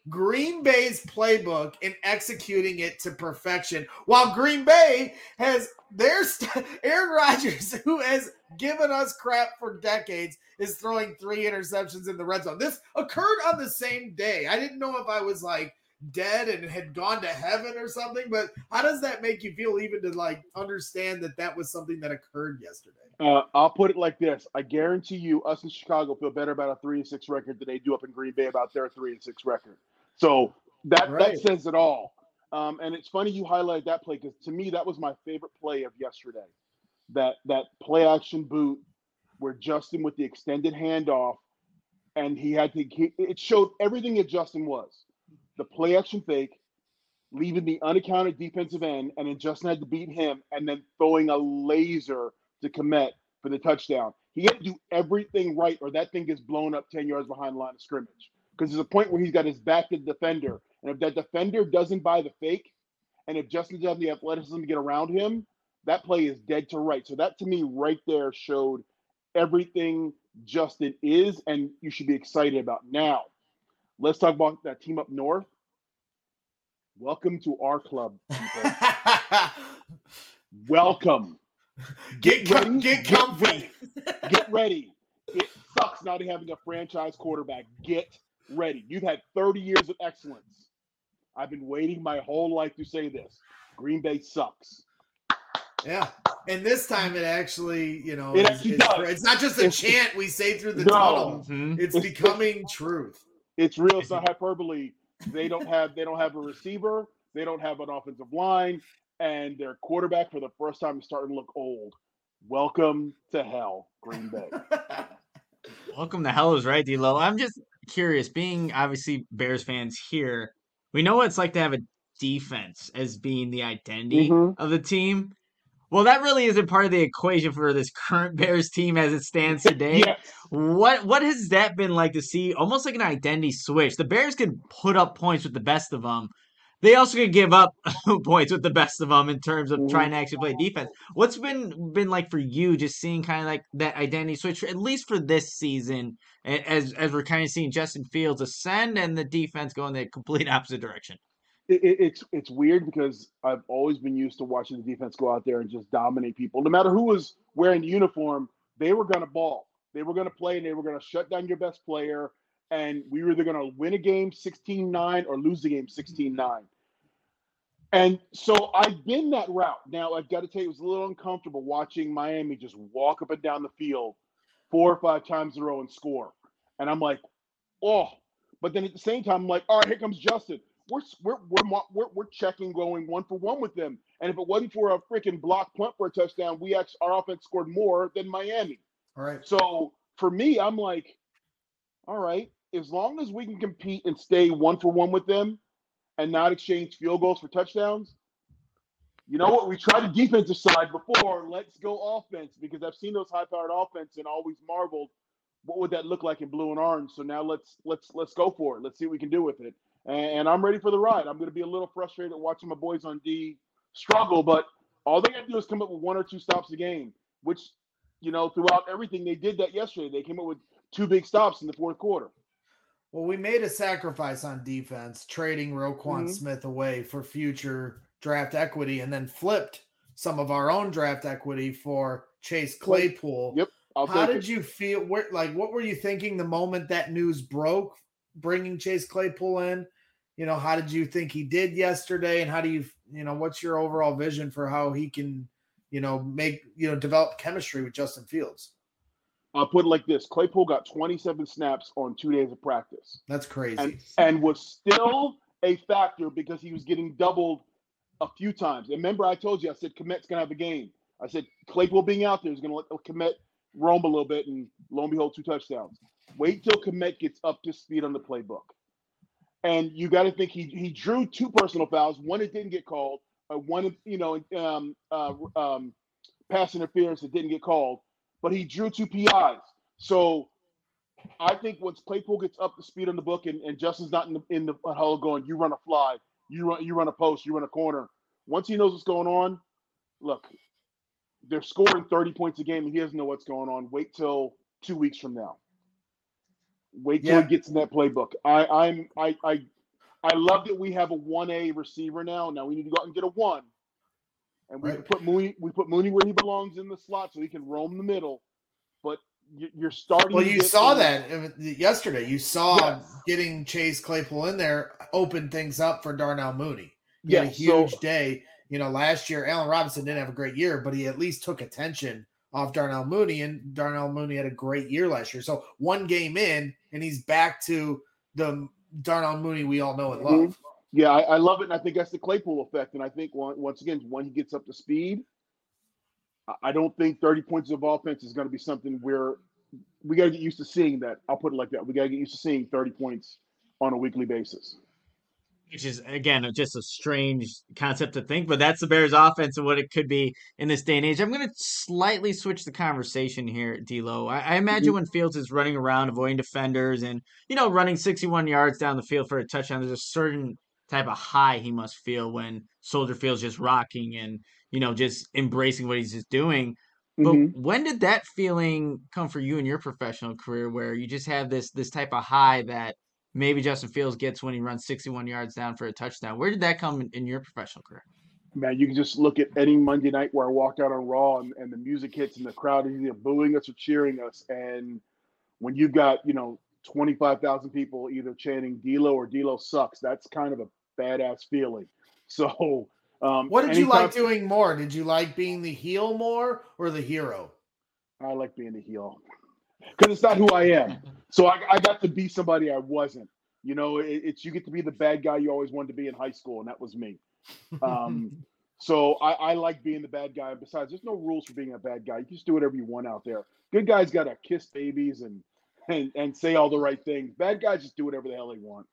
Green Bay's playbook and executing it to perfection, while Green Bay has their st- Aaron Rodgers, who has given us crap for decades, is throwing three interceptions in the red zone. This occurred on the same day. I didn't know if I was like dead and had gone to heaven or something, but how does that make you feel, even to like understand that that was something that occurred yesterday? Uh, I'll put it like this: I guarantee you, us in Chicago feel better about a three and six record than they do up in Green Bay about their three and six record. So that Right. that says it all. Um, and it's funny you highlighted that play, because to me that was my favorite play of yesterday. That that play action boot where Justin with the extended handoff, and he had to. He, it showed everything that Justin was: the play action fake, leaving the unaccounted defensive end, and then Justin had to beat him, and then throwing a laser to Kmet for the touchdown. He had to do everything right, or that thing gets blown up ten yards behind the line of scrimmage. Because there's a point where he's got his back to the defender, and if that defender doesn't buy the fake, and if Justin doesn't have the athleticism to get around him, that play is dead to right. So that, to me, right there showed everything Justin is, and you should be excited about. Now, let's talk about that team up north. Welcome to our club, people. Welcome. Get ready. com- get Get comfy. ready. Get ready. It sucks not having a franchise quarterback. Get ready. You've had thirty years of excellence. I've been waiting my whole life to say this. Green Bay sucks. Yeah. And this time it actually, you know, It is- actually is- does. it's not just a It's- chant we say through the No. tunnel. Mhm. It's It's- becoming truth. It's real. It's not hyperbole. They don't have they don't have a receiver. They don't have an offensive line, and their quarterback for the first time is starting to look old. Welcome to hell, Green Bay. Welcome to hell is right, D-Lo. I'm just curious, being obviously Bears fans here, we know what it's like to have a defense as being the identity Mhm. of the team. Well, that really isn't part of the equation for this current Bears team as it stands today. Yes. What what has that been like to see? Almost like an identity switch. The Bears can put up points with the best of them. They also can give up points with the best of them in terms of Mhm. trying to actually play defense. What's been been like for you, just seeing kind of like that identity switch, at least for this season, a- as as we're kind of seeing Justin Fields ascend and the defense go in the complete opposite direction. It, it, it's it's weird because I've always been used to watching the defense go out there and just dominate people. No matter who was wearing the uniform, they were going to ball. They were going to play, and they were going to shut down your best player. And we were either going to win a game sixteen nine or lose the game sixteen nine. And so I've been that route. Now, I've got to tell you, it was a little uncomfortable watching Miami just walk up and down the field four or five times in a row and score. And I'm like, oh. But then at the same time, I'm like, all right, here comes Justin. We're we're we're we're, we're checking going one for one with them. And if it wasn't for a freaking block punt for a touchdown, we actually our offense scored more than Miami. All right. So for me, I'm like, all right, as long as we can compete and stay one for one with them and not exchange field goals for touchdowns, you know what? We tried the defensive side before. Let's go offense, because I've seen those high-powered offense and always marveled what would that look like in blue and orange. So now let's let's let's go for it. Let's see what we can do with it. And I'm ready for the ride. I'm going to be a little frustrated watching my boys on D struggle, but all they got to do is come up with one or two stops a game, which, you know, throughout everything, they did that yesterday. They came up with two big stops in the fourth quarter. Well, we made a sacrifice on defense, trading Roquan Mhm. Smith away for future draft equity, and then flipped some of our own draft equity for Chase Claypool. Yep. I'll How take did it. you feel? Where, like, what were you thinking the moment that news broke, bringing Chase Claypool in? You know, how did you think he did yesterday? And how do you, you know, what's your overall vision for how he can, you know, make, you know, develop chemistry with Justin Fields? I'll put it like this. Claypool got twenty-seven snaps on two days of practice That's crazy. and, and was still a factor because he was getting doubled a few times. And remember, I told you, I said, Kmet's going to have a game. I said, Claypool being out there is going to let Kmet roam a little bit, and lo and behold, two touchdowns. Wait till Kmet gets up to speed on the playbook. And you got to think he he drew two personal fouls. One that didn't get called. Uh, one, you know, um, uh, um, pass interference that didn't get called. But he drew two P Is. So I think once Claypool gets up to speed on the book, and, and Justin's not in the in the huddle going, you run a fly, you run you run a post, you run a corner. Once he knows what's going on, look, they're scoring thirty points a game, and he doesn't know what's going on. Wait till two weeks from now. Wait till Yeah. he gets in that playbook. I, I'm I, I I love that we have a one A receiver now. Now we need to go out and get a one. And we Right. can put Mooney, we put Mooney where he belongs in the slot so he can roam the middle. But you- you're starting Well, to you get saw some- that uh, yesterday. You saw Yes. getting Chase Claypool in there open things up for Darnell Mooney. He had a Yeah, so- huge day. You know, last year, Allen Robinson didn't have a great year, but he at least took attention off Darnell Mooney, and Darnell Mooney had a great year last year. So one game in, and he's back to the Darnell Mooney we all know and love. Mhm. Yeah, I, I love it, and I think that's the Claypool effect. And I think one, once again, when he gets up to speed, I- I don't think thirty points of offense is going to be something where we got to get used to seeing that. I'll put it like that. We got to get used to seeing thirty points on a weekly basis. Which is, again, just a strange concept to think, but that's the Bears offense and what it could be in this day and age. I'm going to slightly switch the conversation here, D'Lo. I, I imagine Mhm. when Fields is running around, avoiding defenders and, you know, running sixty-one yards down the field for a touchdown, there's a certain type of high he must feel when Soldier Field's just rocking and, you know, just embracing what he's just doing. But Mhm. when did that feeling come for you in your professional career where you just have this this type of high that maybe Justin Fields gets when he runs sixty-one yards down for a touchdown? Where did that come in, in your professional career? Man, you can just look at any Monday night where I walk out on Raw and, and the music hits and the crowd is either booing us or cheering us. And when you've got, you know, twenty-five thousand people either chanting D'Lo or D'Lo sucks, that's kind of a badass feeling. So, um, What did you anytime- like doing more? Did you like being the heel more or the hero? I like being a heel because it's not who I am. So I, I got to be somebody I wasn't. You know, it, it's you get to be the bad guy you always wanted to be in high school, and that was me. Um, so I, I like being the bad guy. Besides, there's no rules for being a bad guy. You can just do whatever you want out there. Good guys got to kiss babies and, and and say all the right things. Bad guys just do whatever the hell they want.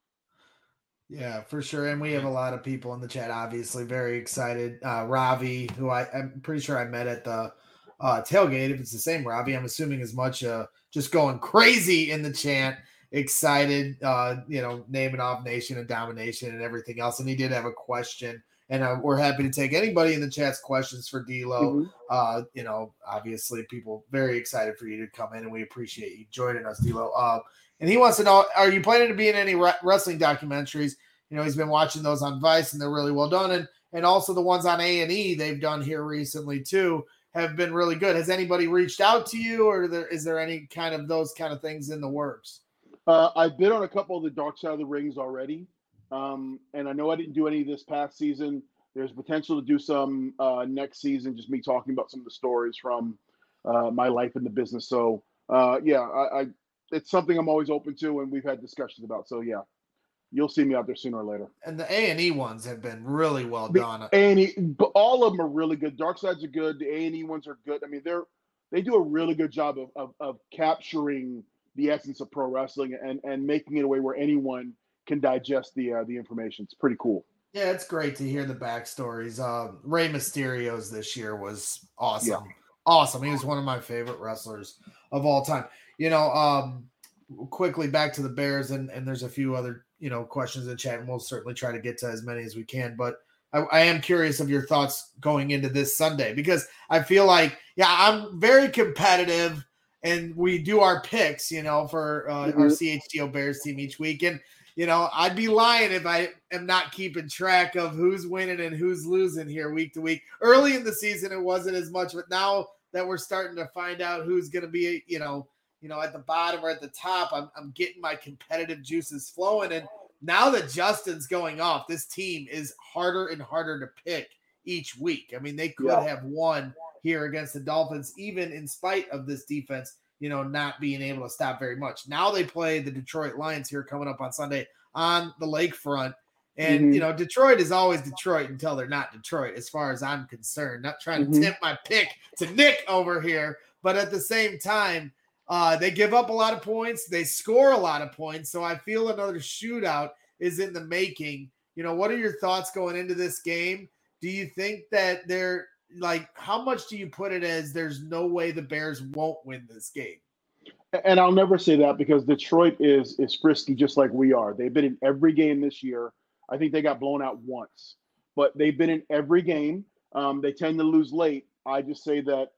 Yeah, for sure. And we have a lot of people in the chat, obviously, very excited. Uh, Ravi, who I, I'm pretty sure I met at the uh, tailgate. If it's the same Ravi, I'm assuming as much uh, just going crazy in the chant, excited, uh, you know, naming off Nation and Domination and everything else. And he did have a question. And uh, we're happy to take anybody in the chat's questions for D'Lo. Mhm. Uh, you know, obviously, people very excited for you to come in, and we appreciate you joining us, D'Lo. Uh, and he wants to know, are you planning to be in any re- wrestling documentaries? You know, he's been watching those on Vice, and they're really well done. And and also the ones on A and E they've done here recently, too, have been really good. Has anybody reached out to you, or there, is there any kind of those kind of things in the works? Uh, I've been on a couple of the Dark Side of the Rings already. Um, and I know I didn't do any this past season. There's potential to do some uh, next season, just me talking about some of the stories from uh, my life in the business. So, uh, yeah, I, I it's something I'm always open to, and we've had discussions about. So, yeah, you'll see me out there sooner or later. And the A and E ones have been really well The done. A and E, but all of them are really good. Dark Sides are good. The A and E ones are good. I mean, they're they do a really good job of, of of capturing the essence of pro wrestling and and making it a way where anyone can digest the uh, the information. It's pretty cool. Yeah, it's great to hear the backstories. Uh, Rey Mysterio's this year was awesome. Awesome. He was one of my favorite wrestlers of all time. You know, um, quickly back to the Bears, and, and there's a few other, you know, questions in chat, and we'll certainly try to get to as many as we can. But I, I am curious of your thoughts going into this Sunday, because I feel like, yeah, I'm very competitive, and we do our picks, you know, for uh, Mhm. our C H G O Bears team each week. And you know, I'd be lying if I am not keeping track of who's winning and who's losing here week to week. Early in the season, it wasn't as much, but now that we're starting to find out who's going to be, you know, you know, at the bottom or at the top, I'm, I'm getting my competitive juices flowing. And now that Justin's going off, this team is harder and harder to pick each week. I mean, they could Yeah. have won here against the Dolphins, even in spite of this defense, you know, not being able to stop very much. Now they play the Detroit Lions here coming up on Sunday on the lakefront. And, Mhm. you know, Detroit is always Detroit until they're not Detroit, as far as I'm concerned. Not trying to Mhm. tip my pick to Nick over here. But at the same time, uh, they give up a lot of points. They score a lot of points. So I feel another shootout is in the making. You know, what are your thoughts going into this game? Do you think that they're like, how much do you put it as there's no way the Bears won't win this game? And I'll never say that because Detroit is is frisky just like we are. They've been in every game this year. I think they got blown out once, but they've been in every game. Um, they tend to lose late. I just say that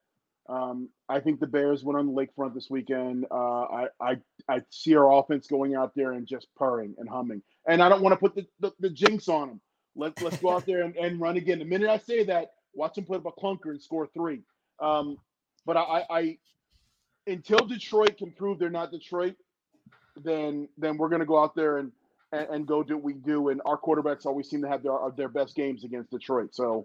Um, I think the Bears went on the lakefront this weekend. Uh, I, I I see our offense going out there and just purring and humming. And I don't want to put the, the, the jinx on them. Let, let's go out there and, and run again. The minute I say that, watch them put up a clunker and score three. Um, but I, I until Detroit can prove they're not Detroit, then then we're going to go out there and, and, and go do what we do. And our quarterbacks always seem to have their their best games against Detroit. So.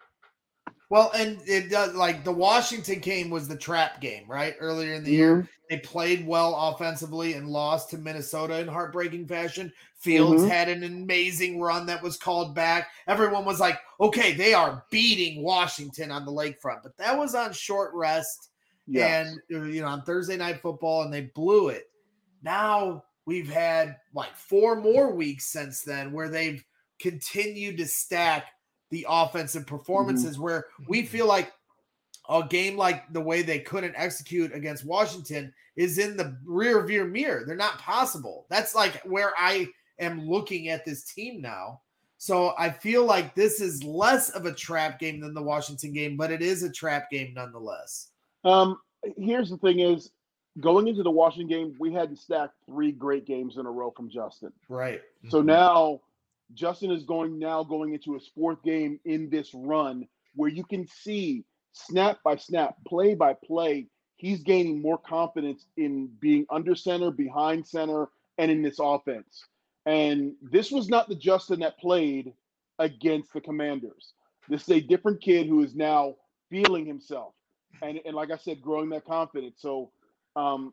Well, and it does like the Washington game was the trap game, right? Earlier in the year, they played well offensively and lost to Minnesota in heartbreaking fashion. Fields mm-hmm. had an amazing run that was called back. Everyone was like, okay, they are beating Washington on the lakefront, but that was on short rest yes. and, you know, on Thursday Night Football, and they blew it. Now we've had like four more weeks since then where they've continued to stack the offensive performances mm-hmm. where we feel like a game like the way they couldn't execute against Washington is in the rear view mirror. They're not possible. That's like where I am looking at this team now. So I feel like this is less of a trap game than the Washington game, but it is a trap game nonetheless. Um, here's the thing is going into the Washington game, we had to stack three great games in a row from Justin. Right. So mm-hmm. now Justin is going now going into his fourth game in this run where you can see snap by snap, play by play, he's gaining more confidence in being under center, behind center, and in this offense. And this was not the Justin that played against the Commanders. This is a different kid who is now feeling himself. And, and like I said, growing that confidence. So, um,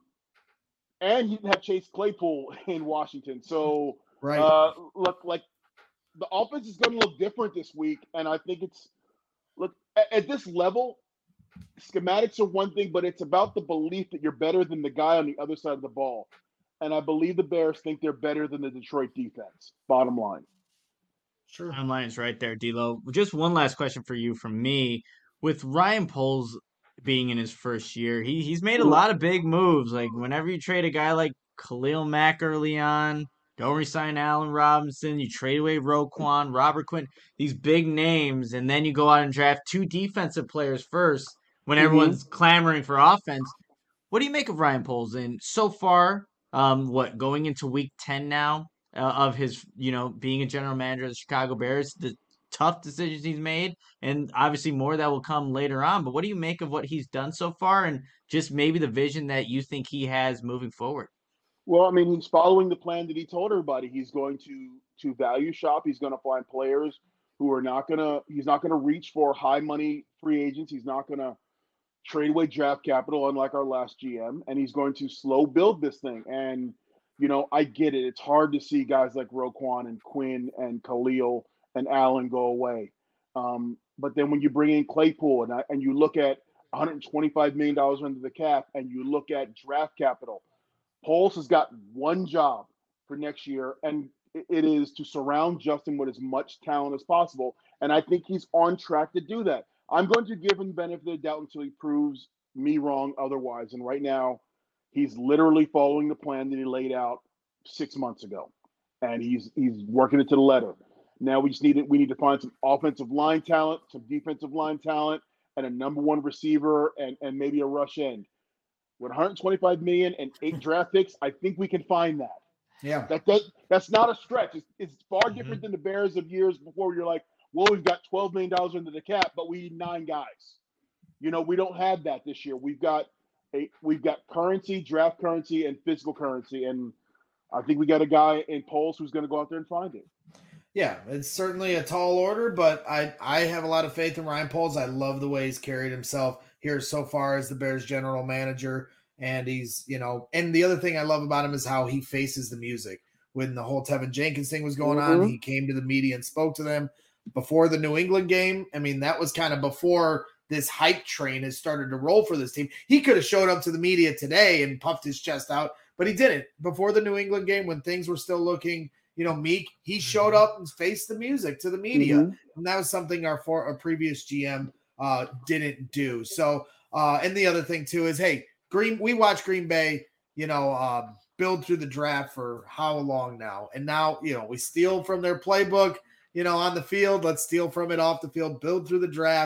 and he didn't have Chase Claypool in Washington. So, right. uh, look, like, the offense is going to look different this week, and I think it's look at, at this level. Schematics are one thing, but it's about the belief that you're better than the guy on the other side of the ball. And I believe the Bears think they're better than the Detroit defense. Bottom line. Sure. Bottom line is right there, D'Lo. Just one last question for you from me. With Ryan Poles being in his first year, he he's made a lot of big moves. Like whenever you trade a guy like Khalil Mack early on. Don't resign Allen Robinson. You trade away Roquan, Robert Quinn, these big names, and then you go out and draft two defensive players first when mm-hmm. everyone's clamoring for offense. What do you make of Ryan Poles? And so far, um, what going into week ten now uh, of his, you know, being a general manager of the Chicago Bears, the tough decisions he's made, and obviously more that will come later on. But what do you make of what he's done so far, and just maybe the vision that you think he has moving forward? Well, I mean, he's following the plan that he told everybody. He's going to to value shop. He's going to find players who are not going to – he's not going to reach for high money free agents. He's not going to trade away draft capital, unlike our last G M. And he's going to slow build this thing. And, you know, I get it. It's hard to see guys like Roquan and Quinn and Khalil and Allen go away. Um, but then when you bring in Claypool and, I, and you look at one hundred twenty-five million dollars under the cap and you look at draft capital – Poles has got one job for next year, and it is to surround Justin with as much talent as possible. And I think he's on track to do that. I'm going to give him the benefit of the doubt until he proves me wrong otherwise. And right now, he's literally following the plan that he laid out six months ago, and he's he's working it to the letter. Now we just need it. We need to find some offensive line talent, some defensive line talent, and a number one receiver, and and maybe a rush end. With one hundred twenty-five million dollars and eight draft picks, I think we can find that. Yeah, that does, that's not a stretch. It's, it's far mm-hmm. different than the Bears of years before. You're like, well, we've got twelve million dollars under the cap, but we need nine guys. You know, we don't have that this year. We've got a we've got currency, draft currency, and physical currency, and I think we got a guy in Poles who's going to go out there and find it. Yeah, it's certainly a tall order, but I I have a lot of faith in Ryan Poles. I love the way he's carried himself here so far as the Bears general manager. And he's, you know, and the other thing I love about him is how he faces the music. When the whole Tevin Jenkins thing was going mm-hmm. on, he came to the media and spoke to them before the New England game. I mean, that was kind of before this hype train has started to roll for this team. He could have showed up to the media today and puffed his chest out, but he didn't. Before the New England game, when things were still looking, you know, meek, he showed up and faced the music to the media. Mm-hmm. And that was something our, for, our previous G M uh, didn't do. So, uh, and the other thing too is, hey, Green, we watch Green Bay, you know, um, build through the draft for how long now? And now, you know, we steal from their playbook, you know, on the field. Let's steal from it off the field, build through the draft.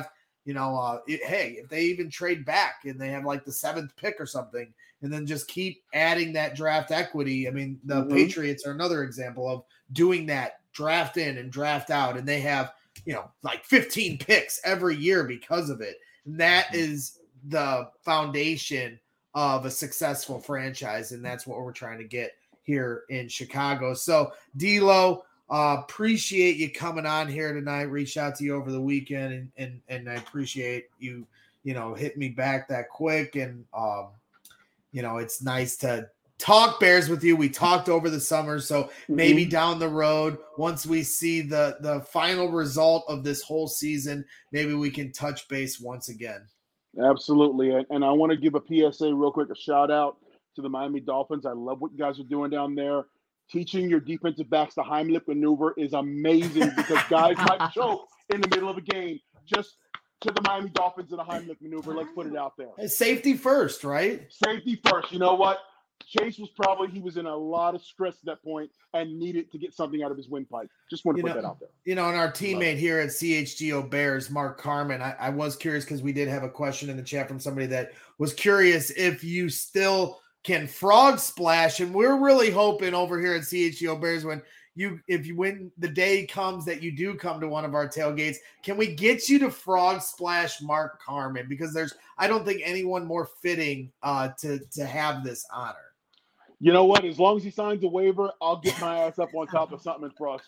you know, uh, it, hey, if they even trade back and they have like the seventh pick or something, and then just keep adding that draft equity. I mean, the mm-hmm. Patriots are another example of doing that, draft in and draft out, and they have, you know, like fifteen picks every year because of it. And that is the foundation of a successful franchise, and that's what we're trying to get here in Chicago. So, D'Lo, uh, appreciate you coming on here tonight. Reached out to you over the weekend, and and and I appreciate you, you know, hitting me back that quick. And um, you know, it's nice to talk Bears with you. We talked over the summer, so mm-hmm. maybe down the road, once we see the the final result of this whole season, maybe we can touch base once again. Absolutely. And I want to give a P S A real quick, a shout out to the Miami Dolphins. I love what you guys are doing down there. Teaching your defensive backs the Heimlich maneuver is amazing because guys might choke in the middle of a game. Just to the Miami Dolphins and the Heimlich maneuver. Let's put it out there. Safety first, right? Safety first. You know what? Chase was probably, he was in a lot of stress at that point and needed to get something out of his windpipe. Just want to you put know, that out there. You know, and our teammate here at C H G O Bears, Mark Carmen, I, I was curious because we did have a question in the chat from somebody that was curious if you still can frog splash. And we're really hoping over here at C H G O Bears when you, if you win, the day comes that you do come to one of our tailgates, can we get you to frog splash Mark Carmen? Because there's, I don't think anyone more fitting uh, to, to have this honor. You know what? As long as he signs a waiver, I'll get my ass up on top of something and frog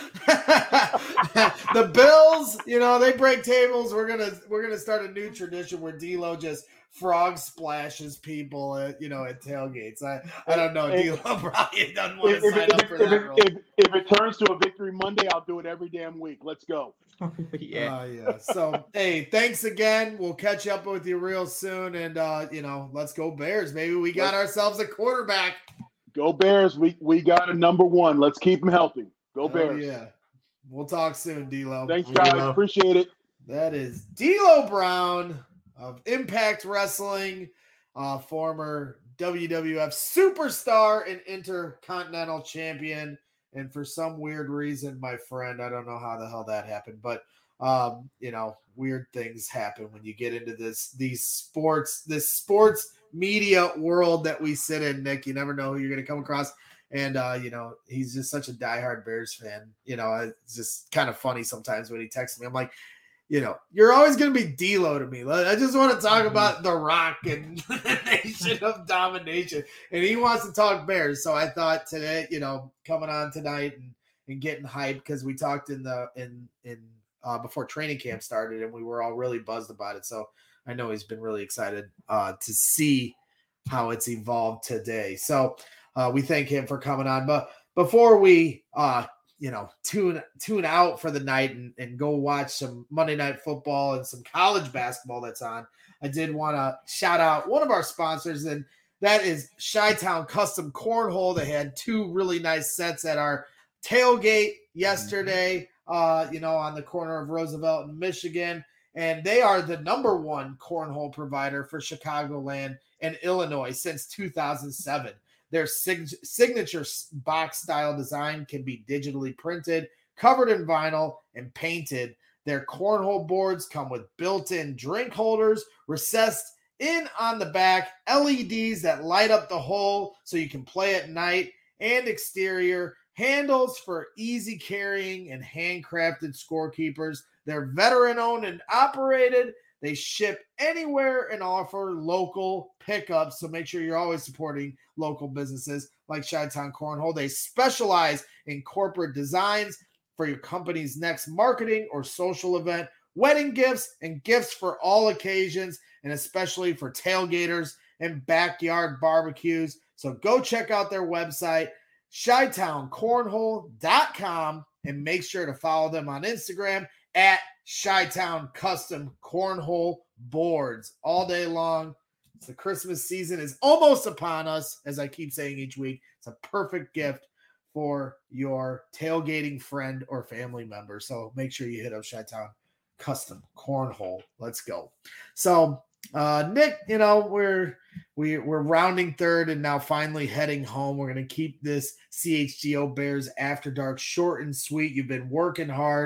splash. The Bills, you know, they break tables. We're gonna we're gonna start a new tradition where D'Lo just frog splashes people at, you know, at tailgates. I, I don't know. If, D'Lo probably doesn't want to if, sign if, up if, for if, that if, role. If, if it turns to a Victory Monday, I'll do it every damn week. Let's go. yeah. Uh, yeah. So, hey, thanks again. We'll catch up with you real soon. And, uh, you know, let's go Bears. Maybe we got let's, ourselves a quarterback. Go Bears. We we got a number one. Let's keep him healthy. Go oh, Bears. Yeah. We'll talk soon, D'Lo. Thanks, guys. D'Lo. Appreciate it. That is D'Lo Brown of Impact Wrestling, uh, former W W F superstar and intercontinental champion. And for some weird reason, my friend, I don't know how the hell that happened, but um, you know, weird things happen when you get into this, these sports, this sports media world that we sit in, Nick. You never know who you're going to come across. And, uh, you know, he's just such a diehard Bears fan. You know, it's just kind of funny sometimes when he texts me. I'm like, you know, you're always going to be D'Lo to me. I just want to talk about The Rock and Nation of Domination. And he wants to talk Bears. So I thought today, you know, coming on tonight and, and getting hyped because we talked in the in in uh, before training camp started and we were all really buzzed about it. So I know he's been really excited uh, to see how it's evolved today. So uh, we thank him for coming on. But before we uh, you know, tune tune out for the night and, and go watch some Monday Night Football and some college basketball that's on, I did want to shout out one of our sponsors, and that is Chi-Town Custom Cornhole. They had two really nice sets at our tailgate yesterday, uh, you know, on the corner of Roosevelt and Michigan, and they are the number one cornhole provider for Chicagoland and Illinois since two thousand seven. Their sig- signature box style design can be digitally printed, covered in vinyl, and painted. Their cornhole boards come with built-in drink holders, recessed in on the back, L E Ds that light up the hole so you can play at night, and exterior handles for easy carrying and handcrafted scorekeepers. They're veteran-owned and operated. They ship anywhere and offer local pickups, so make sure you're always supporting local businesses like Chi-Town Cornhole. They specialize in corporate designs for your company's next marketing or social event, wedding gifts, and gifts for all occasions, and especially for tailgaters and backyard barbecues. So go check out their website, chi town cornhole dot com, and make sure to follow them on Instagram at Chi-Town Custom Cornhole Boards all day long. The Christmas season is almost upon us, as I keep saying each week. It's a perfect gift for your tailgating friend or family member. So make sure you hit up Chi-Town Custom Cornhole. Let's go. So, uh, Nick, you know, we're we, we're rounding third and now finally heading home. We're going to keep this C H G O Bears After Dark short and sweet. You've been working hard.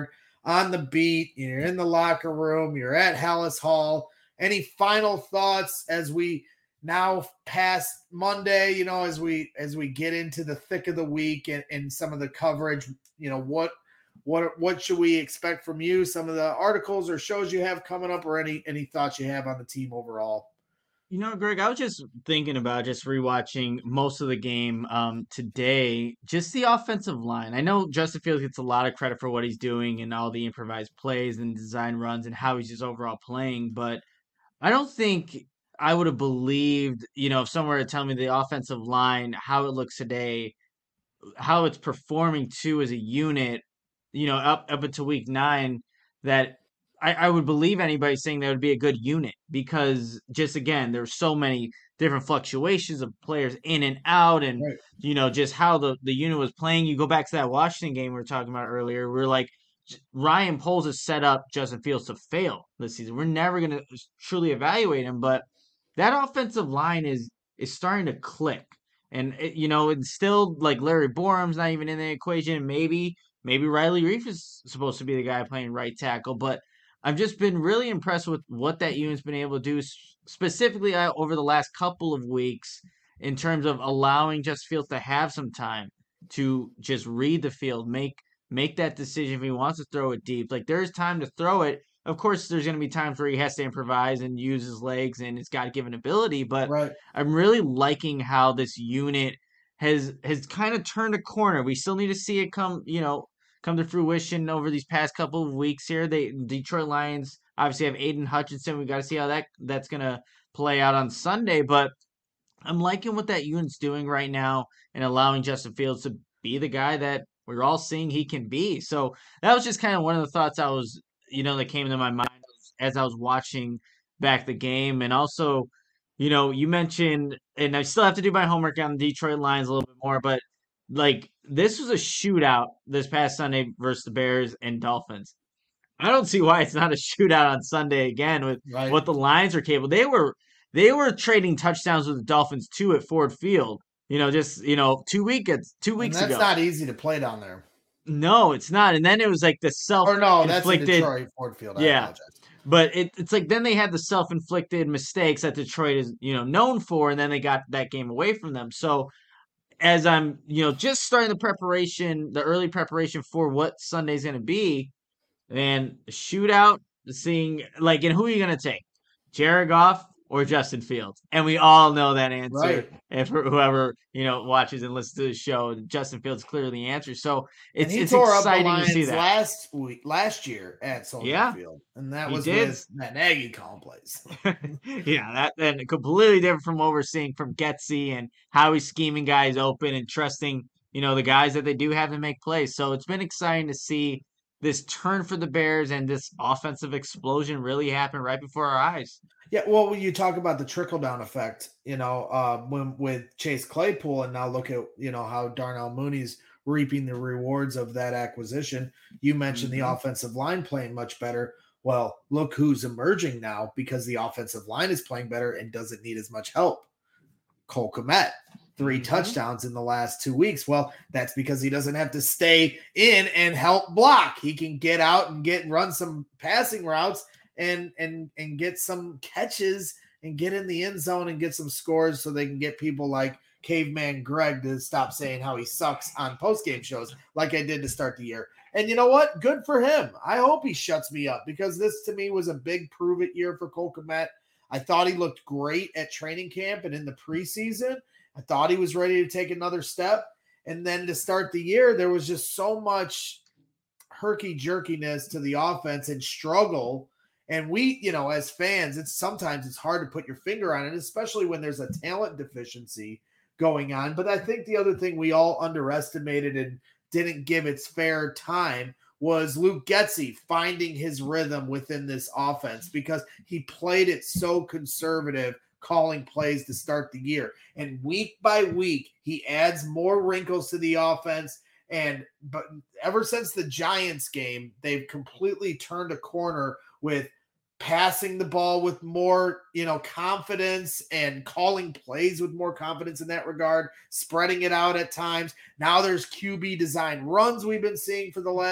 on the beat, you're in the locker room, you're at Hallis Hall. Any final thoughts as we now past Monday, you know, as we as we get into the thick of the week and, and some of the coverage, you know, what what what should we expect from you? Some of the articles or shows you have coming up, or any any thoughts you have on the team overall? You know, Greg, I was just thinking about just rewatching most of the game um, today. Just the offensive line. I know Justin Fields gets a lot of credit for what he's doing and all the improvised plays and design runs and how he's just overall playing, but I don't think I would have believed, you know, if someone were to tell me the offensive line, how it looks today, how it's performing too as a unit, you know, up up until week nine, that I, I would believe anybody saying that would be a good unit because just again, there's so many different fluctuations of players in and out, and Right. you know, just how the, the unit was playing. You go back to that Washington game we were talking about earlier, we're like Ryan Poles has set up Justin Fields to fail this season. We're never gonna truly evaluate him, but that offensive line is is starting to click. And it, you know, it's still like Larry Borum's not even in the equation. Maybe maybe Riley Reef is supposed to be the guy playing right tackle, but I've just been really impressed with what that unit's been able to do, specifically uh, over the last couple of weeks, in terms of allowing Justin Fields to have some time to just read the field, make make that decision if he wants to throw it deep. Like there's time to throw it. Of course, there's going to be times where he has to improvise and use his legs and his God-given ability, but Right. I'm really liking how this unit has has kind of turned a corner. We still need to see it come, you know, come to fruition over these past couple of weeks here. They Detroit Lions obviously have Aiden Hutchinson. We got to see how that that's going to play out on Sunday, but I'm liking what that unit's doing right now and allowing Justin Fields to be the guy that we're all seeing he can be. So that was just kind of one of the thoughts I was, you know, that came to my mind as I was watching back the game. And also, you know, you mentioned, and I still have to do my homework on the Detroit Lions a little bit more, but like this was a shootout this past Sunday versus the Bears and Dolphins. I don't see why it's not a shootout on Sunday again with Right. what the Lions are capable. They were they were trading touchdowns with the Dolphins too at Ford Field. You know, just you know, two weeks two And weeks that's ago. not easy to play down there. No, it's not. And then it was like the self Or no, that's in inflicted. Detroit Ford Field. I Yeah. apologize. But it, it's like then they had the self-inflicted mistakes that Detroit is, you know, known for, and then they got that game away from them. So as I'm, you know, just starting the preparation, the early preparation for what Sunday's going to be, and shootout, seeing like, and who are you going to take, Jared Goff or Justin Fields? And we all know that answer. Right. And for whoever you know watches and listens to the show, Justin Fields is clearly the answer. So it's and he it's tore up the exciting to see Lions that. last week, last year at Soldier Yeah. Field, and that He was did. with that Nagy complex. Yeah, that and completely different from what we're seeing from Getsy and how he's scheming guys open and trusting, you know, the guys that they do have to make plays. So it's been exciting to see this turn for the Bears and this offensive explosion really happen right before our eyes. Yeah, well, when you talk about the trickle down effect, you know, uh, when with Chase Claypool, and now look at you know how Darnell Mooney's reaping the rewards of that acquisition. You mentioned Mhm. the offensive line playing much better. Well, look who's emerging now because the offensive line is playing better and doesn't need as much help. Cole Kmet, three Mhm. touchdowns in the last two weeks. Well, that's because he doesn't have to stay in and help block. He can get out and get run some passing routes and and and get some catches and get in the end zone and get some scores so they can get people like Caveman Greg to stop saying how he sucks on post-game shows like I did to start the year. And you know what? Good for him. I hope he shuts me up because this to me was a big prove-it year for Cole Kmet. I thought he looked great at training camp and in the preseason. I thought he was ready to take another step. And then to start the year, there was just so much herky-jerkiness to the offense and struggle. And we, you know, as fans, it's sometimes it's hard to put your finger on it, especially when there's a talent deficiency going on. But I think the other thing we all underestimated and didn't give its fair time was Luke Getsy finding his rhythm within this offense because he played it so conservative, calling plays to start the year. And week by week, he adds more wrinkles to the offense. And but ever since the Giants game, they've completely turned a corner with passing the ball with more, you know, confidence and calling plays with more confidence in that regard, spreading it out at times. Now there's Q B design runs we've been seeing for the last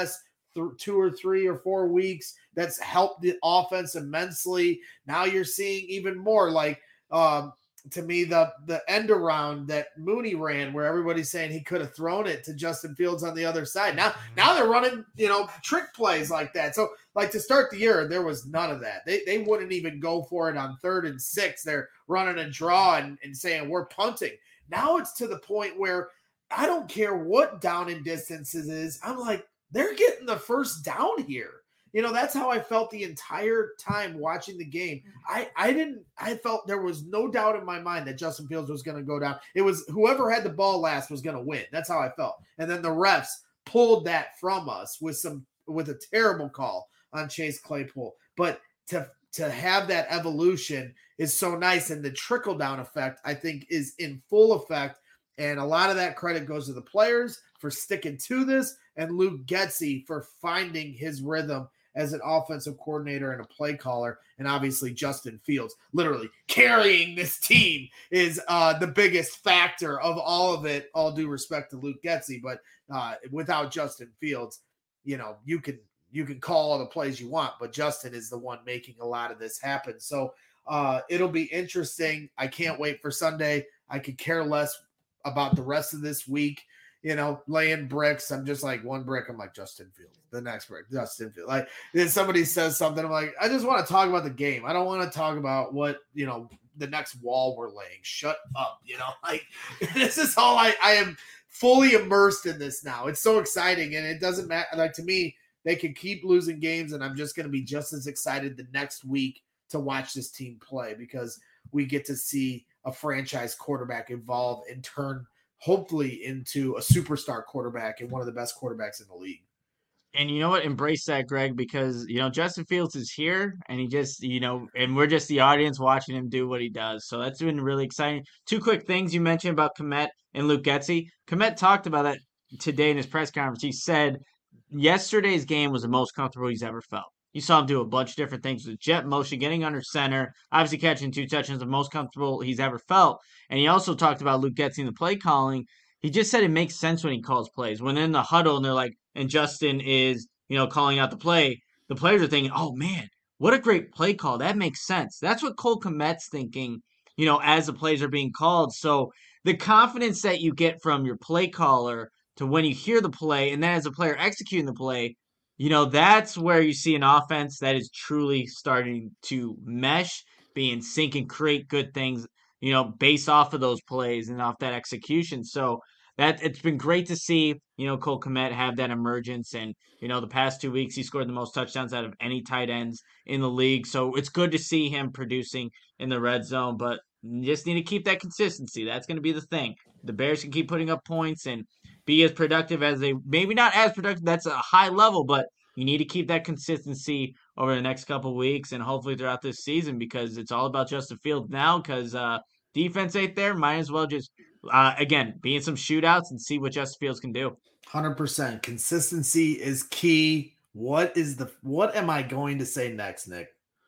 th- two or three or four weeks that's helped the offense immensely. Now you're seeing even more like, um, to me, the the end around that Mooney ran where everybody's saying he could have thrown it to Justin Fields on the other side. Now, now they're running, you know, trick plays like that. So like to start the year, there was none of that. They they wouldn't even go for it on third and six. They're running a draw and, and saying we're punting. Now it's to the point where I don't care what down and distances is. I'm like, they're getting the first down here. You know, that's how I felt the entire time watching the game. I, I didn't, I felt there was no doubt in my mind that Justin Fields was going to go down. It was whoever had the ball last was going to win. That's how I felt. And then the refs pulled that from us with some, with a terrible call on Chase Claypool. But to, to have that evolution is so nice. And the trickle down effect, I think, is in full effect. And a lot of that credit goes to the players for sticking to this and Luke Getsy for finding his rhythm as an offensive coordinator and a play caller, and obviously Justin Fields literally carrying this team is uh, the biggest factor of all of it, all due respect to Luke Getsy. But uh, without Justin Fields, you know, you can you can call all the plays you want, but Justin is the one making a lot of this happen. So uh, it'll be interesting. I can't wait for Sunday. I could care less about the rest of this week. You know, laying bricks. I'm just like one brick. I'm like Justin Fields. The next brick, Justin Fields. Like then somebody says something. I'm like, I just want to talk about the game. I don't want to talk about what, you know, the next wall we're laying. Shut up. You know, like this is all I, I am fully immersed in this now. It's so exciting. And it doesn't matter. Like to me, they can keep losing games and I'm just going to be just as excited the next week to watch this team play because we get to see a franchise quarterback evolve and turn hopefully into a superstar quarterback and one of the best quarterbacks in the league. And you know what? Embrace that, Greg, because, you know, Justin Fields is here and he just, you know, and we're just the audience watching him do what he does. So that's been really exciting. Two quick things you mentioned about Kmet and Luke Getsy. Kmet talked about that today in his press conference. He said yesterday's game was the most comfortable he's ever felt. You saw him do a bunch of different things with jet motion, getting under center, obviously catching two touchdowns, the most comfortable he's ever felt. And he also talked about Luke Getsy in the play calling. He just said it makes sense when he calls plays. When in the huddle and they're like, and Justin is, you know, calling out the play, the players are thinking, oh man, what a great play call. That makes sense. That's what Cole Kmet's thinking, you know, as the plays are being called. So the confidence that you get from your play caller to when you hear the play and then as a player executing the play, you know, that's where you see an offense that is truly starting to mesh, be in sync and create good things, you know, based off of those plays and off that execution. So that it's been great to see, you know, Cole Kmet have that emergence. And, you know, the past two weeks, he scored the most touchdowns out of any tight ends in the league. So it's good to see him producing in the red zone, but you just need to keep that consistency. That's going to be the thing. The Bears can keep putting up points and be as productive as they, maybe not as productive, that's a high level, but you need to keep that consistency over the next couple of weeks and hopefully throughout this season because it's all about Justin Fields now because uh, defense ain't there. Might as well just, uh, again, be in some shootouts and see what Justin Fields can do. one hundred percent. Consistency is key. What is the, what am I going to say next, Nick?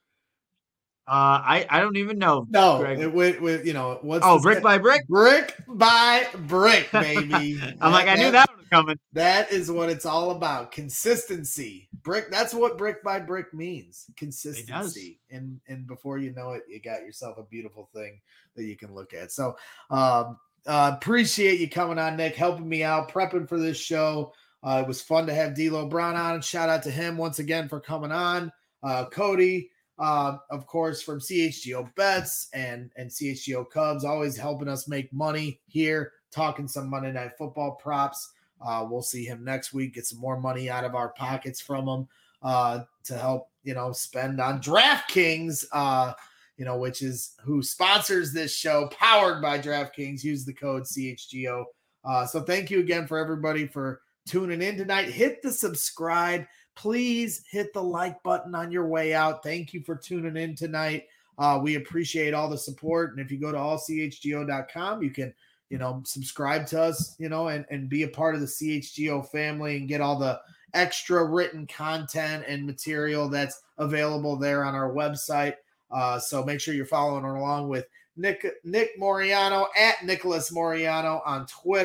Uh, I, I don't even know. No, Greg. it, with, with, you know, what's Oh, the brick say? by brick? Brick by brick, baby. I'm that, like, I knew that, that one was coming. That is what it's all about. Consistency. Brick. That's what brick by brick means. Consistency. And and before you know it, you got yourself a beautiful thing that you can look at. So um, uh, appreciate you coming on, Nick, helping me out, prepping for this show. Uh, it was fun to have D'Lo Brown on. Shout out to him once again for coming on. Uh, Cody. Uh, of course, from C H G O Bets and, and C H G O Cubs, always helping us make money here, talking some Monday Night Football props. Uh, we'll see him next week, get some more money out of our pockets from him uh, to help, you know, spend on DraftKings, uh, you know, which is who sponsors this show, powered by DraftKings. Use the code C H G O. Uh, so thank you again for everybody for tuning in tonight. Hit the subscribe. Please hit the like button on your way out. Thank you for tuning in tonight. Uh, we appreciate all the support. And if you go to all c h g o dot com, you can, you know, subscribe to us, you know, and, and be a part of the C H G O family and get all the extra written content and material that's available there on our website. Uh, so make sure you're following along with Nick, Nick Moriano at Nicholas Moriano on Twitter.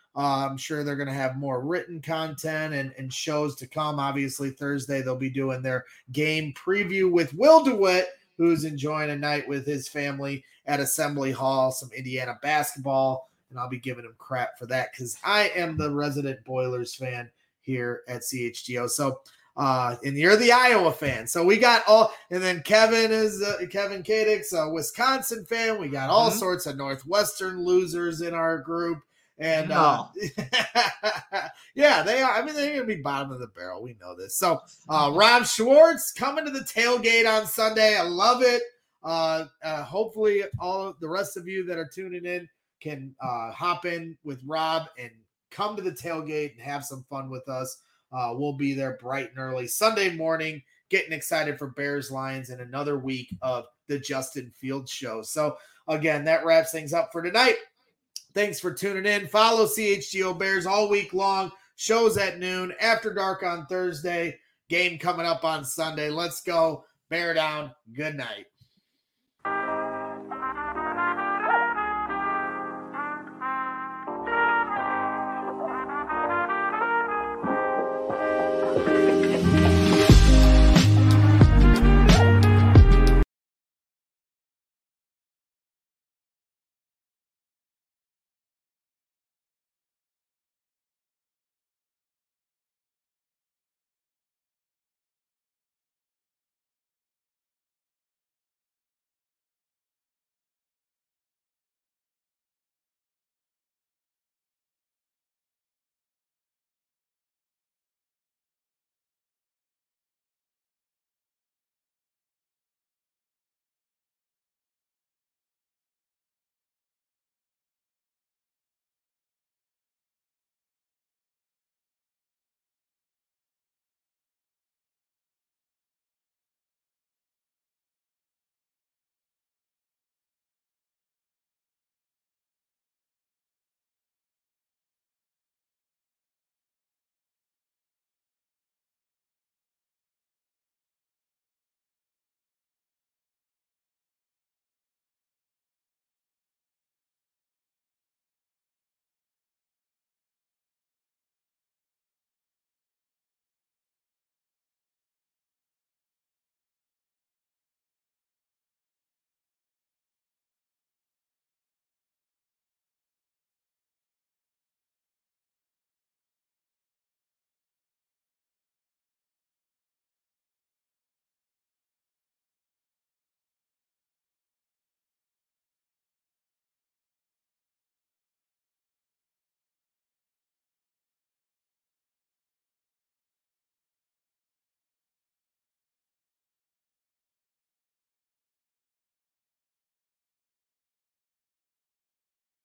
Uh, I'm sure they're going to have more written content and, and shows to come. Obviously, Thursday they'll be doing their game preview with Will DeWitt, who's enjoying a night with his family at Assembly Hall, some Indiana basketball, and I'll be giving him crap for that because I am the resident Boilers fan here at C H G O. So, uh, and you're the Iowa fan. So we got all, and then Kevin is uh, Kevin Kadix, a Wisconsin fan. We got all mm-hmm. sorts of Northwestern losers in our group. And uh, yeah, they are. I mean, they're going to be bottom of the barrel. We know this. So uh, Rob Schwartz coming to the tailgate on Sunday. I love it. Uh, uh, hopefully, all of the rest of you that are tuning in can uh, hop in with Rob and come to the tailgate and have some fun with us. Uh, we'll be there bright and early Sunday morning, getting excited for Bears Lions and another week of the Justin Fields show. So again, that wraps things up for tonight. Thanks for tuning in. Follow C H G O Bears all week long. Shows at noon, after dark on Thursday. Game coming up on Sunday. Let's go. Bear down. Good night.